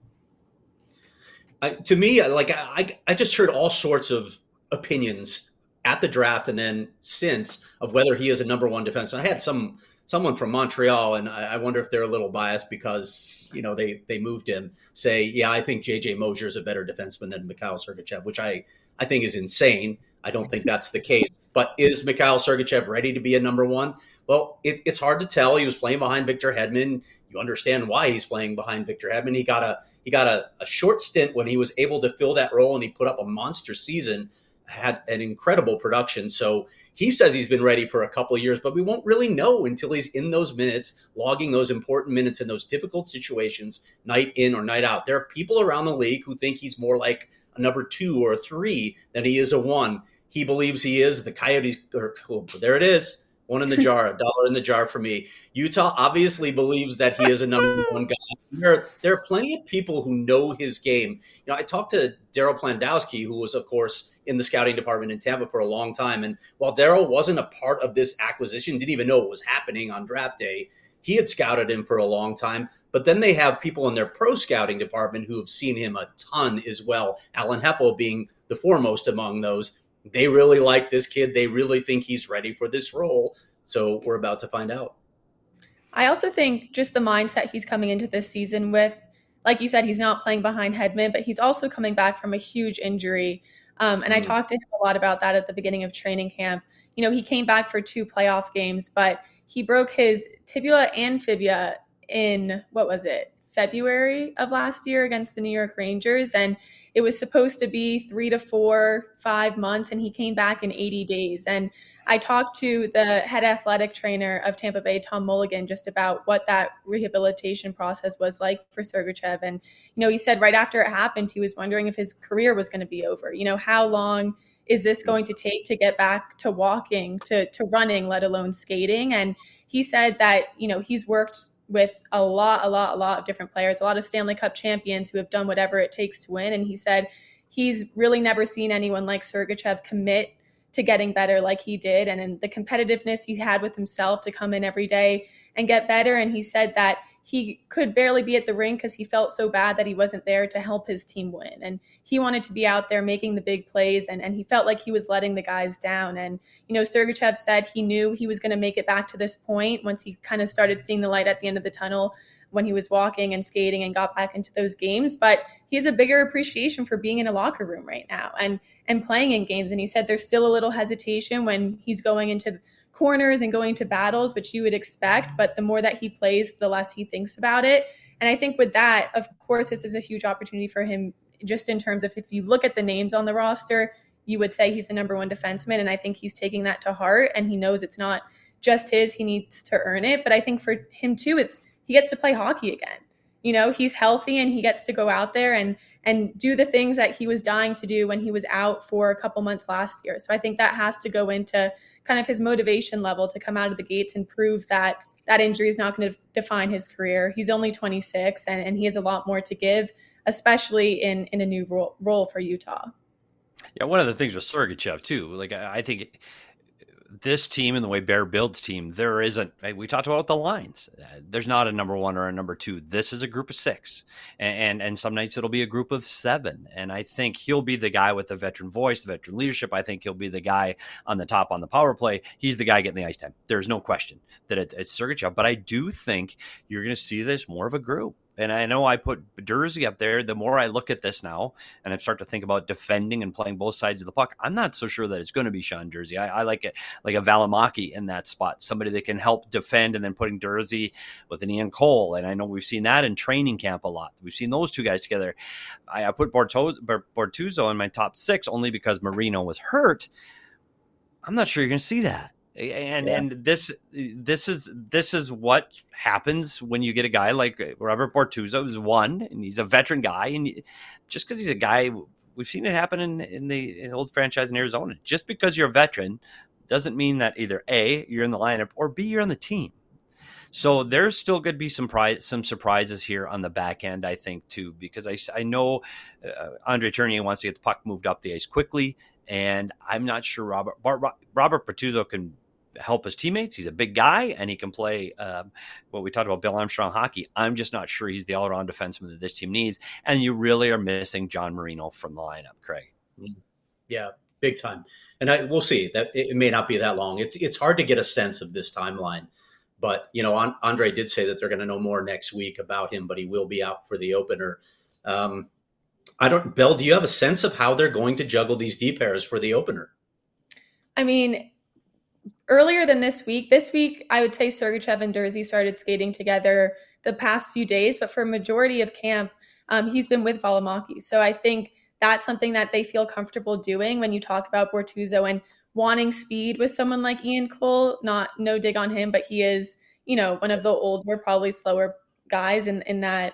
To me, I just heard all sorts of opinions at the draft and then since of whether he is a number one defenseman. I had someone from Montreal, and I wonder if they're a little biased because, they moved him, say, yeah, I think JJ Mosier is a better defenseman than Mikhail Sergachev, which I think is insane. I don't think that's the case. But is Mikhail Sergachev ready to be a number one? Well, it's hard to tell. He was playing behind Victor Hedman. You understand why he's playing behind Victor Hedman. He got a short stint when he was able to fill that role, and he put up a monster season, had an incredible production. So he says he's been ready for a couple of years, but we won't really know until he's in those minutes, logging those important minutes in those difficult situations, night in or night out. There are people around the league who think he's more like a number 2 or a 3 than he is a 1. He believes he is. The Coyotes, there it is. One in the jar, $1 in the jar for me. Utah obviously believes that he is a number 1 guy. There are plenty of people who know his game. I talked to Daryl Plandowski, who was, of course, in the scouting department in Tampa for a long time. And while Daryl wasn't a part of this acquisition, didn't even know what was happening on draft day, he had scouted him for a long time. But then they have people in their pro scouting department who have seen him a ton as well, Alan Heppel being the foremost among those. They really like this kid. They really think he's ready for this role. So we're about to find out. I also think just the mindset he's coming into this season with, like you said, he's not playing behind Hedman, but he's also coming back from a huge injury. And I talked to him a lot about that at the beginning of training camp. He came back for 2 playoff games, but he broke his tibia and fibula in, February of last year against the New York Rangers. And it was supposed to be 3 to 4, 5 months, and he came back in 80 days. And I talked to the head athletic trainer of Tampa Bay, Tom Mulligan, just about what that rehabilitation process was like for Sergachev. And, he said right after it happened, he was wondering if his career was going to be over. How long is this going to take to get back to walking, to running, let alone skating? And he said that, he's worked with a lot of different players, a lot of Stanley Cup champions who have done whatever it takes to win. And he said he's really never seen anyone like Sergachev commit to getting better like he did, and in the competitiveness he had with himself to come in every day and get better. And he said that he could barely be at the rink because he felt so bad that he wasn't there to help his team win. And he wanted to be out there making the big plays, and he felt like he was letting the guys down. And, Sergachev said he knew he was going to make it back to this point once he kind of started seeing the light at the end of the tunnel when he was walking and skating and got back into those games. But he has a bigger appreciation for being in a locker room right now and playing in games. And he said there's still a little hesitation when he's going into corners and going to battles, which you would expect, but the more that he plays, the less he thinks about it. And I think with that, of course, this is a huge opportunity for him, just in terms of, if you look at the names on the roster, you would say he's the number one defenseman. And I think he's taking that to heart, and he knows it's not just his, he needs to earn it. But I think for him too, he gets to play hockey again. He's healthy, and he gets to go out there and do the things that he was dying to do when he was out for a couple months last year. So I think that has to go into kind of his motivation level to come out of the gates and prove that injury is not going to define his career. He's only 26, and he has a lot more to give, especially in a new role for Utah. Yeah, one of the things with Sergachev too, like I think this team and the way Bear builds team, there isn't, we talked about the lines. There's not a number one or a number two. This is a group of six. And some nights it'll be a group of seven. And I think he'll be the guy with the veteran voice, the veteran leadership. I think he'll be the guy on the top on the power play. He's the guy getting the ice time. There's no question that it's Sergachev. But I do think you're going to see this more of a group. And I know I put Durzi up there. The more I look at this now and I start to think about defending and playing both sides of the puck, I'm not so sure that it's going to be Sean Durzi. I like it, like a Valimaki in that spot, somebody that can help defend, and then putting Durzi with an Ian Cole. And I know we've seen that in training camp a lot. We've seen those two guys together. I put Bortuzzo in my top six only because Marino was hurt. I'm not sure you're going to see that. And this is what happens when you get a guy like Robert Bortuzzo, who's one, and he's a veteran guy, and just because he's a guy, we've seen it happen in the old franchise in Arizona. Just because you're a veteran doesn't mean that either A, you're in the lineup, or B, you're on the team. So there's still going to be some surprises here on the back end, I think, too, because I know Andre Tournier wants to get the puck moved up the ice quickly, and I'm not sure Robert Bortuzzo can help his teammates. He's a big guy, and he can play what we talked about, Bill Armstrong hockey. I'm just not sure he's the all-around defenseman that this team needs, and you really are missing John Marino from the lineup, Craig. Yeah, big time. And we'll see. That it may not be that long. It's hard to get a sense of this timeline, but Andre did say that they're going to know more next week about him, but he will be out for the opener. Belle, do you have a sense of how they're going to juggle these D pairs for the opener? I mean, earlier than this week, I would say Sergachev and Durzi started skating together the past few days, but for a majority of camp, he's been with Valimaki. So I think that's something that they feel comfortable doing when you talk about Bortuzzo and wanting speed with someone like Ian Cole. No dig on him, but he is, one of the older, probably slower guys in that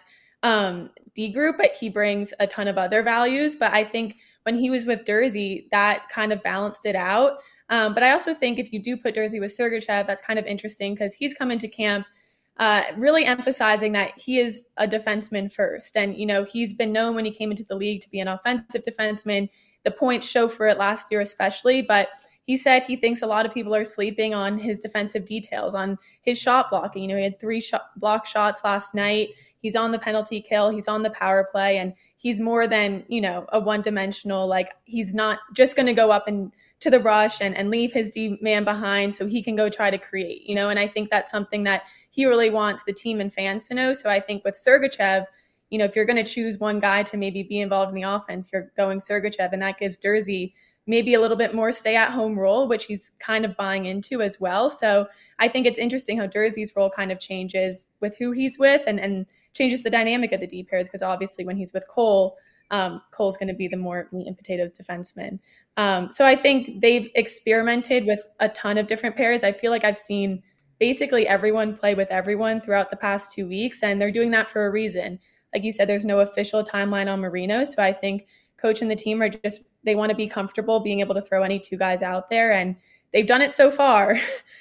D group, but he brings a ton of other values. But I think when he was with Durzi, that kind of balanced it out. But I also think if you do put Durzi with Sergachev, that's kind of interesting because he's come into camp really emphasizing that he is a defenseman first. And, he's been known when he came into the league to be an offensive defenseman. The points show for it last year especially, but he said he thinks a lot of people are sleeping on his defensive details, on his shot blocking. He had 3 block shots last night. He's on the penalty kill. He's on the power play. And he's more than, a one-dimensional, like he's not just going to go up and to the rush and leave his D man behind so he can go try to create, and I think that's something that he really wants the team and fans to know. So I think with Sergachev, if you're going to choose one guy to maybe be involved in the offense, you're going Sergachev, and that gives Durzi maybe a little bit more stay-at-home role, which he's kind of buying into as well. So I think it's interesting how Durzi's role kind of changes with who he's with and changes the dynamic of the D pairs, because obviously when he's with Cole, Cole's going to be the more meat and potatoes defenseman. So I think they've experimented with a ton of different pairs. I feel like I've seen basically everyone play with everyone throughout the past 2 weeks, and they're doing that for a reason. Like you said, there's no official timeline on Marino. So I think coach and the team they want to be comfortable being able to throw any 2 guys out there, and they've done it so far.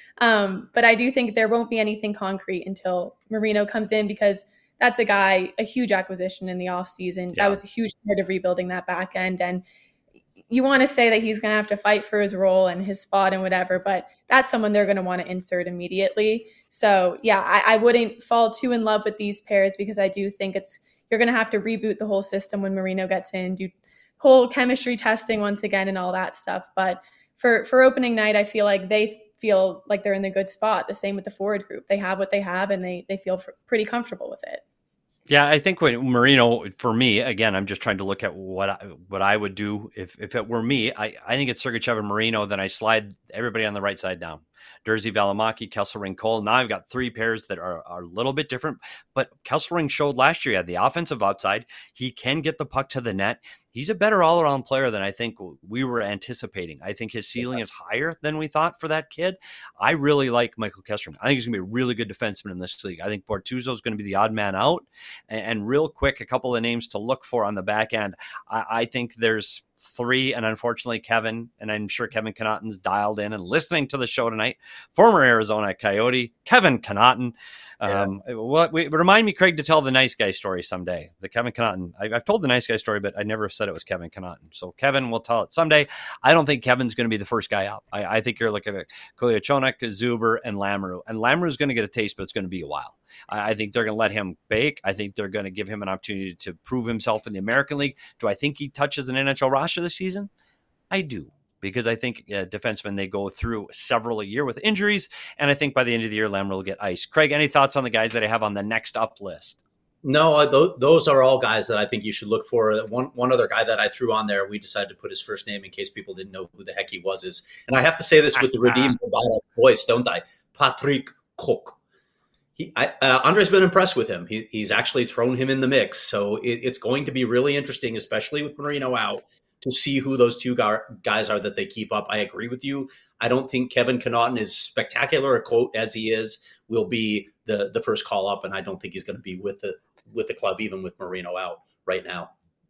But I do think there won't be anything concrete until Marino comes in, because that's a huge acquisition in the offseason. Yeah. That was a huge part of rebuilding that back end. And, you want to say that he's going to have to fight for his role and his spot and whatever, but that's someone they're going to want to insert immediately. So yeah, I wouldn't fall too in love with these pairs, because I do think you're going to have to reboot the whole system when Marino gets in, do whole chemistry testing once again and all that stuff. But for opening night, I feel like they feel like they're in the good spot. The same with the forward group. They have what they have, and they feel pretty comfortable with it. Yeah, I think when Marino, for me, again, I'm just trying to look at what I would do if it were me. I think it's Sergachev and Marino. Then I slide everybody on the right side down. Durzi, Valimaki, Kesselring, Cole. Now I've got three pairs that are a little bit different. But Kesselring showed last year he had the offensive upside. He can get the puck to the net. He's a better all-around player than I think we were anticipating. I think his ceiling is higher than we thought for that kid. I really like Michael Kesselring. I think he's going to be a really good defenseman in this league. I think Bortuzzo is going to be the odd man out. And real quick, a couple of names to look for on the back end. I think there's three, and unfortunately Kevin, and I'm sure Kevin Connaughton's dialed in and listening to the show tonight, former Arizona Coyote, Kevin Connaughton. Remind me, Craig, to tell the nice guy story someday. The Kevin Connaughton. I've told the nice guy story, but I never said it was Kevin Connaughton. So Kevin will tell it someday. I don't think Kevin's going to be the first guy up. I think you're looking at Kolyachonok, Zuber, and Lamoureux. And Lamoureux's going to get a taste, but it's going to be a while. I think they're going to let him bake. I think they're going to give him an opportunity to prove himself in the American League. Do I think he touches an NHL roster this season? I do, because I think defensemen, they go through several a year with injuries, and I think by the end of the year, Lamoureux will get iced. Craig, any thoughts on the guys that I have on the next up list? No, those are all guys that I think you should look for. One other guy that I threw on there, we decided to put his first name in case people didn't know who the heck he was, and I have to say this with the redeemed voice, don't I? Patrick Cook. Andre's been impressed with him. He's actually thrown him in the mix. So it's going to be really interesting, especially with Marino out, to see who those two guys are that they keep up. I agree with you. I don't think Kevin Connaughton, as spectacular a quote as he is, will be the first call up. And I don't think he's going to be with the club, even with Marino out right now.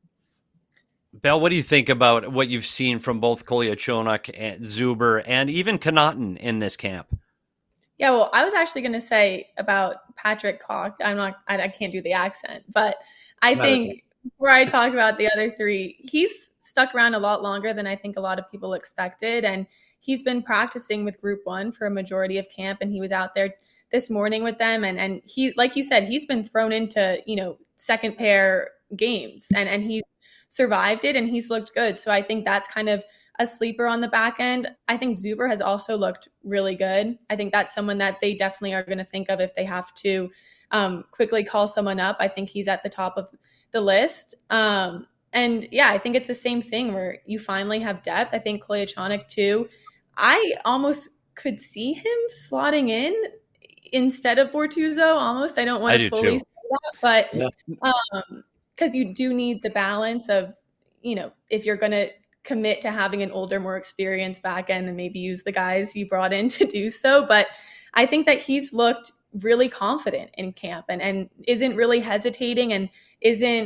Bell, what do you think about what you've seen from both Kolyachonok and Zuber and even Connaughton in this camp? Yeah, well, I was actually going to say about Patrick Cook. I can't do the accent, but I think before I talk about the other three, he's stuck around a lot longer than I think a lot of people expected. And he's been practicing with Group 1 for a majority of camp. And he was out there this morning with them. And he, like you said, he's been thrown into, second pair games and he's survived it and he's looked good. So I think that's kind of a sleeper on the back end. I think Zuber has also looked really good. I think that's someone that they definitely are going to think of if they have to quickly call someone up. I think he's at the top of the list. And yeah, I think it's the same thing where you finally have depth. I think Kolyachonok too. I almost could see him slotting in instead of Bortuzzo almost. I don't want to fully say that, but because you do need the balance of, if you're going to commit to having an older, more experienced back end, and maybe use the guys you brought in to do so. But I think that he's looked really confident in camp and isn't really hesitating and isn't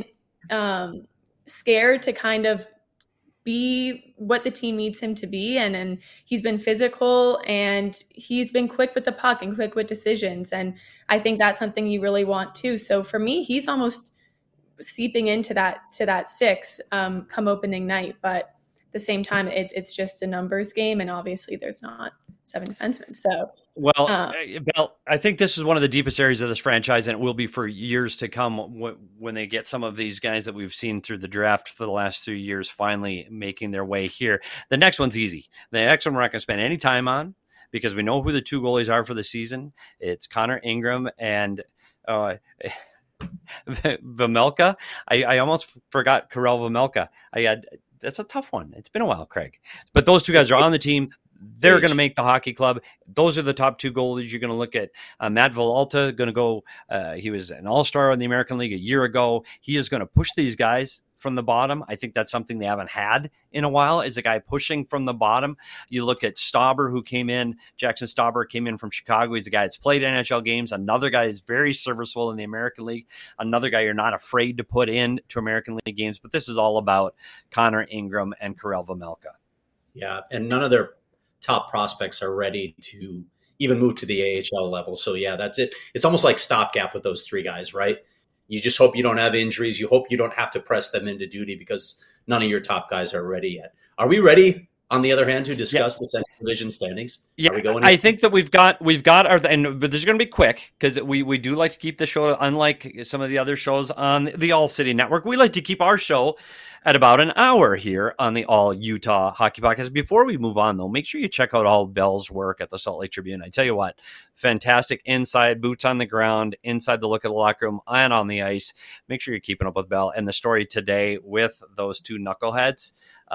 scared to kind of be what the team needs him to be. And he's been physical and he's been quick with the puck and quick with decisions. And I think that's something you really want too. So for me, he's almost seeping into that six come opening night. But at the same time, it's just a numbers game, and obviously there's not 7 defensemen. So, Bell, I think this is one of the deepest areas of this franchise, and it will be for years to come when they get some of these guys that we've seen through the draft for the last 3 years finally making their way here. The next one's easy. The next one we're not going to spend any time on because we know who the two goalies are for the season. It's Connor Ingram and Vejmelka. I almost forgot Karel Vejmelka. That's a tough one. It's been a while, Craig. But those two guys are on the team. They're going to make the hockey club. Those are the top two goalies. You're going to look at Matt Villalta, going to go. He was an all-star in the American League a year ago. He is going to push these guys from the bottom. I think that's something they haven't had in a while, is a guy pushing from the bottom. You look at Stauber, who came in. Jackson Stauber came in from Chicago. He's a guy that's played NHL games. Another guy is very serviceable in the American League. Another guy you're not afraid to put in to American League games. But this is all about Connor Ingram and Karel Vejmelka. Yeah, and none of their top prospects are ready to even move to the AHL level. So yeah, that's it. It's almost like stopgap with those three guys, right? You just hope you don't have injuries. You hope you don't have to press them into duty because none of your top guys are ready yet. Are we ready, on the other hand, to discuss the Central Division standings? Yeah, Are we going? I think that we've got our, but this is going to be quick because we do like to keep the show, unlike some of the other shows on the All City Network. We like to keep our show at about an hour here on the All Utah Hockey Podcast. Before we move on, though, make sure you check out all Bell's work at the Salt Lake Tribune. I tell you what, fantastic inside, boots on the ground, inside the look of the locker room and on the ice. Make sure you're keeping up with Bell. And the story today with those two knuckleheads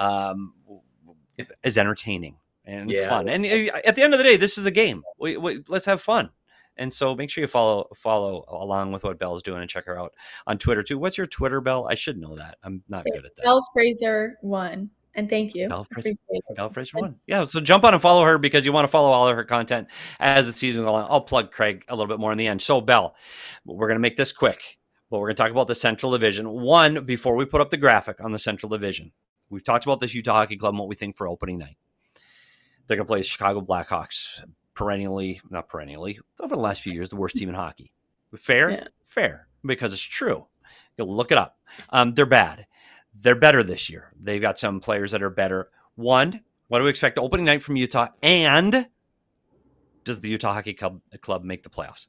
is entertaining and fun. And at the end of the day, this is a game. Let's have fun. And so make sure you follow along with what Belle's doing and check her out on Twitter too. What's your Twitter, Belle? I should know that. I'm not good at that. Belle Fraser 1. And thank you. Belle Fraser 1. Yeah, so jump on and follow her because you want to follow all of her content as the season goes on. I'll plug Craig a little bit more in the end. So Belle, we're going to make this quick. But we're going to talk about the Central Division. One, before we put up the graphic on the Central Division, we've talked about this Utah Hockey Club and what we think for opening night. They're going to play the Chicago Blackhawks, not perennially, over the last few years, the worst team in hockey. Fair? Yeah. Fair, because it's true. You'll look it up. They're bad. They're better this year. They've got some players that are better. One, what do we expect opening night from Utah? And does the Utah Hockey Club make the playoffs?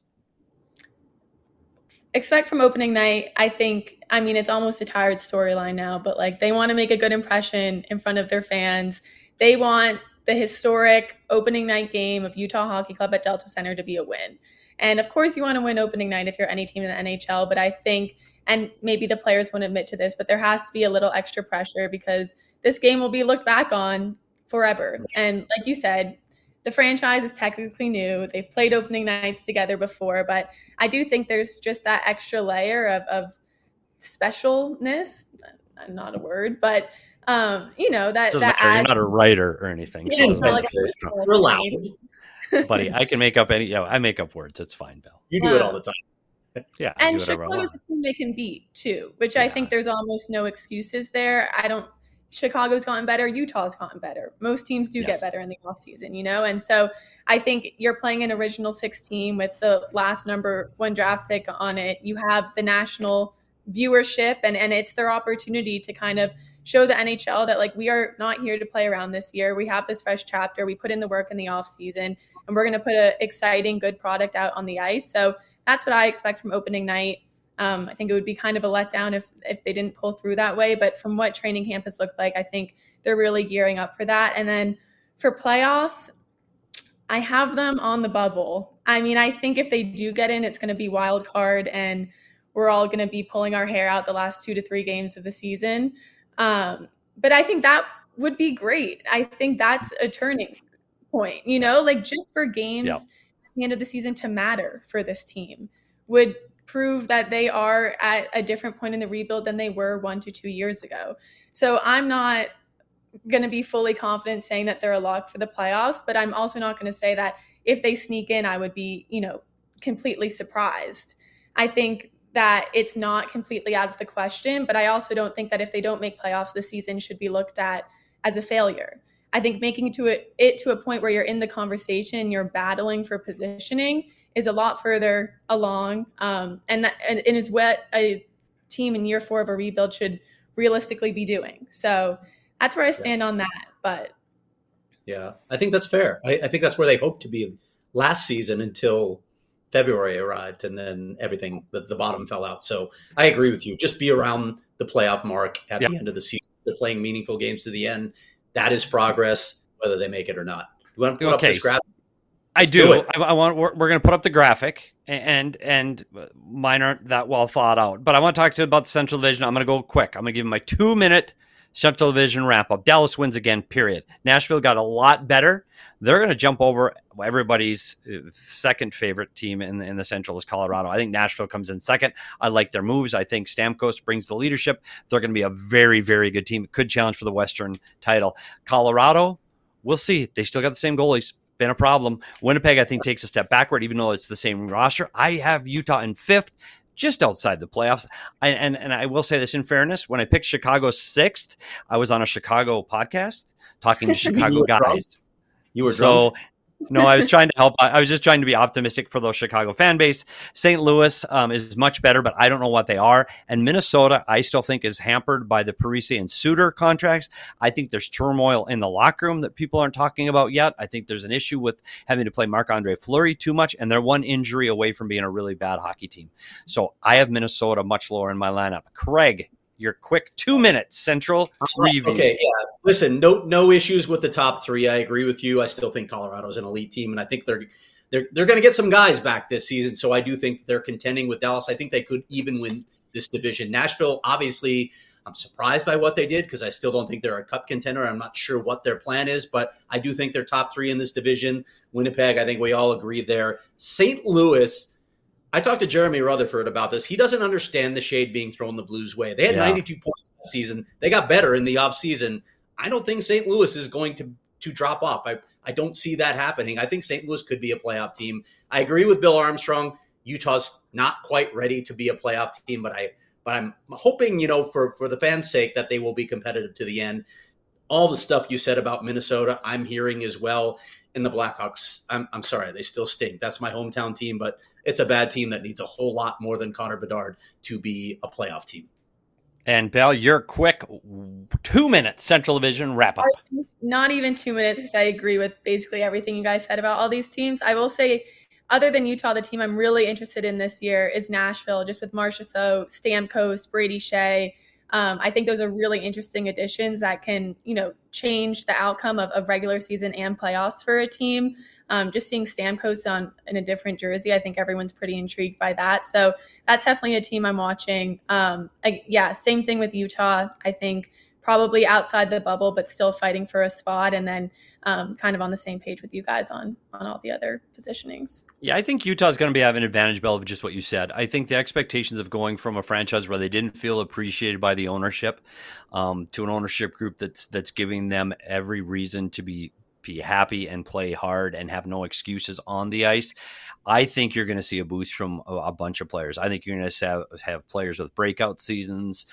Expect from opening night, it's almost a tired storyline now, but they want to make a good impression in front of their fans. They want the historic opening night game of Utah Hockey Club at Delta Center to be a win. And of course you want to win opening night if you're any team in the NHL, but I think, and maybe the players won't admit to this, but there has to be a little extra pressure because this game will be looked back on forever. And like you said, the franchise is technically new. They've played opening nights together before, but I do think there's just that extra layer of specialness, not a word, but that you're not a writer or anything. Yeah, we're allowed. Buddy, I can make up I make up words. It's fine, Belle. You do it all the time. Yeah. And Chicago's a team they can beat too, which I think there's almost no excuses there. Chicago's gotten better. Utah's gotten better. Most teams do get better in the offseason, And so I think you're playing an original 6 team with the last number 1 draft pick on it. You have the national viewership and it's their opportunity to kind of show the NHL that we are not here to play around this year. We have this fresh chapter. We put in the work in the off season and we're going to put an exciting, good product out on the ice. So that's what I expect from opening night. I think it would be kind of a letdown if they didn't pull through that way. But from what training camp has looked like, I think they're really gearing up for that. And then for playoffs, I have them on the bubble. I think if they do get in, it's going to be wild card and we're all going to be pulling our hair out the last 2 to 3 games of the season. But I think that would be great. I think that's a turning point, just for games at the end of the season to matter for this team would prove that they are at a different point in the rebuild than they were 1 to 2 years ago. So I'm not going to be fully confident saying that they're a lock for the playoffs, but I'm also not going to say that if they sneak in, I would be, completely surprised. I think that it's not completely out of the question, but I also don't think that if they don't make playoffs, the season should be looked at as a failure. I think making it to a point where you're in the conversation, you're battling for positioning is a lot further along, and is what a team in year 4 of a rebuild should realistically be doing. So that's where I stand on that. But yeah, I think that's fair. I think that's where they hoped to be last season until February arrived and then everything, the bottom fell out. So I agree with you. Just be around the playoff mark at the end of the season. They're playing meaningful games to the end. That is progress, whether they make it or not. You want to put up this graphic? I do. We're going to put up the graphic, and mine aren't that well thought out. But I want to talk to you about the Central Division. I'm going to go quick. I'm going to give you my 2-minute Central Division wrap-up. Dallas wins again, period. Nashville got a lot better. They're going to jump over everybody's second favorite team in the Central is Colorado. I think Nashville comes in second. I like their moves. I think Stamkos brings the leadership. They're going to be a very, very good team. Could challenge for the Western title. Colorado, we'll see. They still got the same goalies. Been a problem. Winnipeg, I think, takes a step backward, even though it's the same roster. I have Utah in 5th. Just outside the playoffs. And I will say this in fairness, when I picked Chicago 6th, I was on a Chicago podcast talking to Chicago guys. You were drunk? No, I was trying to help. I was just trying to be optimistic for those Chicago fan base. St. Louis is much better, but I don't know what they are. And Minnesota, I still think, is hampered by the Parise and Suter contracts. I think there's turmoil in the locker room that people aren't talking about yet. I think there's an issue with having to play Marc-Andre Fleury too much, and they're one injury away from being a really bad hockey team. So I have Minnesota much lower in my lineup. Craig, your quick 2-minute Central review. Okay, yeah. Listen, no issues with the top three. I agree with you. I still think Colorado's an elite team, and I think they're going to get some guys back this season. So I do think they're contending with Dallas. I think they could even win this division. Nashville, obviously, I'm surprised by what they did because I still don't think they're a cup contender. I'm not sure what their plan is, but I do think they're top three in this division. Winnipeg, I think we all agree there. St. Louis, I talked to Jeremy Rutherford about this. He doesn't understand the shade being thrown the Blues' way. They had 92 points last season. They got better in the offseason. I don't think St. Louis is going to drop off. I don't see that happening. I think St. Louis could be a playoff team. I agree with Bill Armstrong. Utah's not quite ready to be a playoff team, but I'm hoping, for the fans' sake that they will be competitive to the end. All the stuff you said about Minnesota, I'm hearing as well. And the Blackhawks, I'm sorry, they still stink. That's my hometown team, but it's a bad team that needs a whole lot more than Connor Bedard to be a playoff team. And Belle, your quick 2-minute Central Division wrap up. Not even 2 minutes, because I agree with basically everything you guys said about all these teams. I will say, other than Utah, the team I'm really interested in this year is Nashville, just with Marchessault, Stamkos, Brady Shea. I think those are really interesting additions that can, change the outcome of regular season and playoffs for a team. Just seeing Stamkos in a different jersey, I think everyone's pretty intrigued by that. So that's definitely a team I'm watching. Same thing with Utah. I think probably outside the bubble, but still fighting for a spot. And then kind of on the same page with you guys on all the other positionings. Yeah, I think Utah's going to be having an advantage, Bell, of just what you said. I think the expectations of going from a franchise where they didn't feel appreciated by the ownership to an ownership group that's giving them every reason to be happy and play hard and have no excuses on the ice. I think you're going to see a boost from a bunch of players. I think you're going to have players with breakout seasons.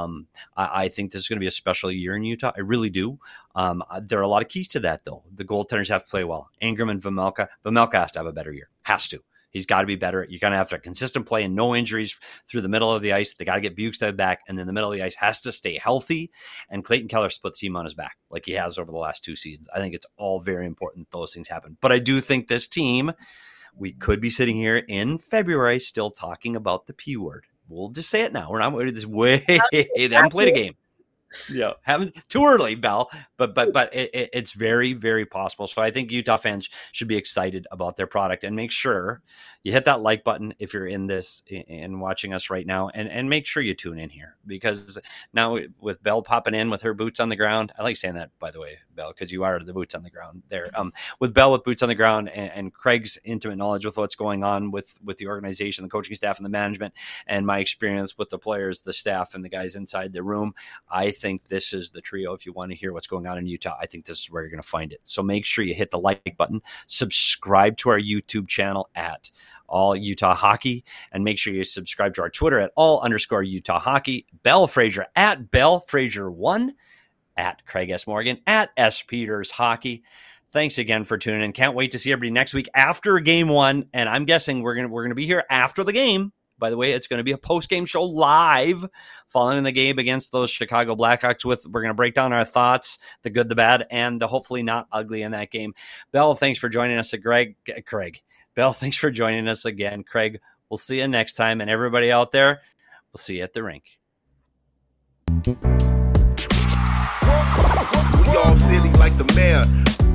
I think this is going to be a special year in Utah. I really do. There are a lot of keys to that, though. The goaltenders have to play well. Ingram and Vejmelka. Vejmelka has to have a better year. Has to. He's got to be better. You're going to have to have consistent play and no injuries through the middle of the ice. They got to get Bukestad back, and then the middle of the ice has to stay healthy. And Clayton Keller split the team on his back like he has over the last 2 seasons. I think it's all very important that those things happen. But I do think this team, we could be sitting here in February still talking about the P word. We'll just say it now. We're not waiting this way. They haven't played a game. Yeah, haven't too early, Bell, but it's very, very possible. So I think Utah fans should be excited about their product and make sure you hit that like button if you're in this and watching us right now, and make sure you tune in here, because now with Bell popping in with her boots on the ground, I like saying that, by the way, Bell, because you are the boots on the ground there. With Bell with boots on the ground and Craig's intimate knowledge with what's going on with the organization, the coaching staff, and the management, and my experience with the players, the staff, and the guys inside the room, I think this is the trio. If you want to hear what's going on in Utah, I think this is where you're going to find it. So make sure you hit the like button, subscribe to our YouTube channel at All Utah Hockey, and make sure you subscribe to our Twitter at _Utah Hockey. Bell Frazier at Bell Frazier 1, at Craig S. Morgan, at S. Peters Hockey. Thanks again for tuning in. Can't wait to see everybody next week after Game 1, and I'm guessing we're gonna be here after the game. By the way, it's going to be a post-game show live following the game against those Chicago Blackhawks. We're going to break down our thoughts, the good, the bad, and the hopefully not ugly in that game. Bell, thanks for joining us. Craig. Bell, thanks for joining us again. Craig, we'll see you next time. And everybody out there, we'll see you at the rink. We all silly like the mayor.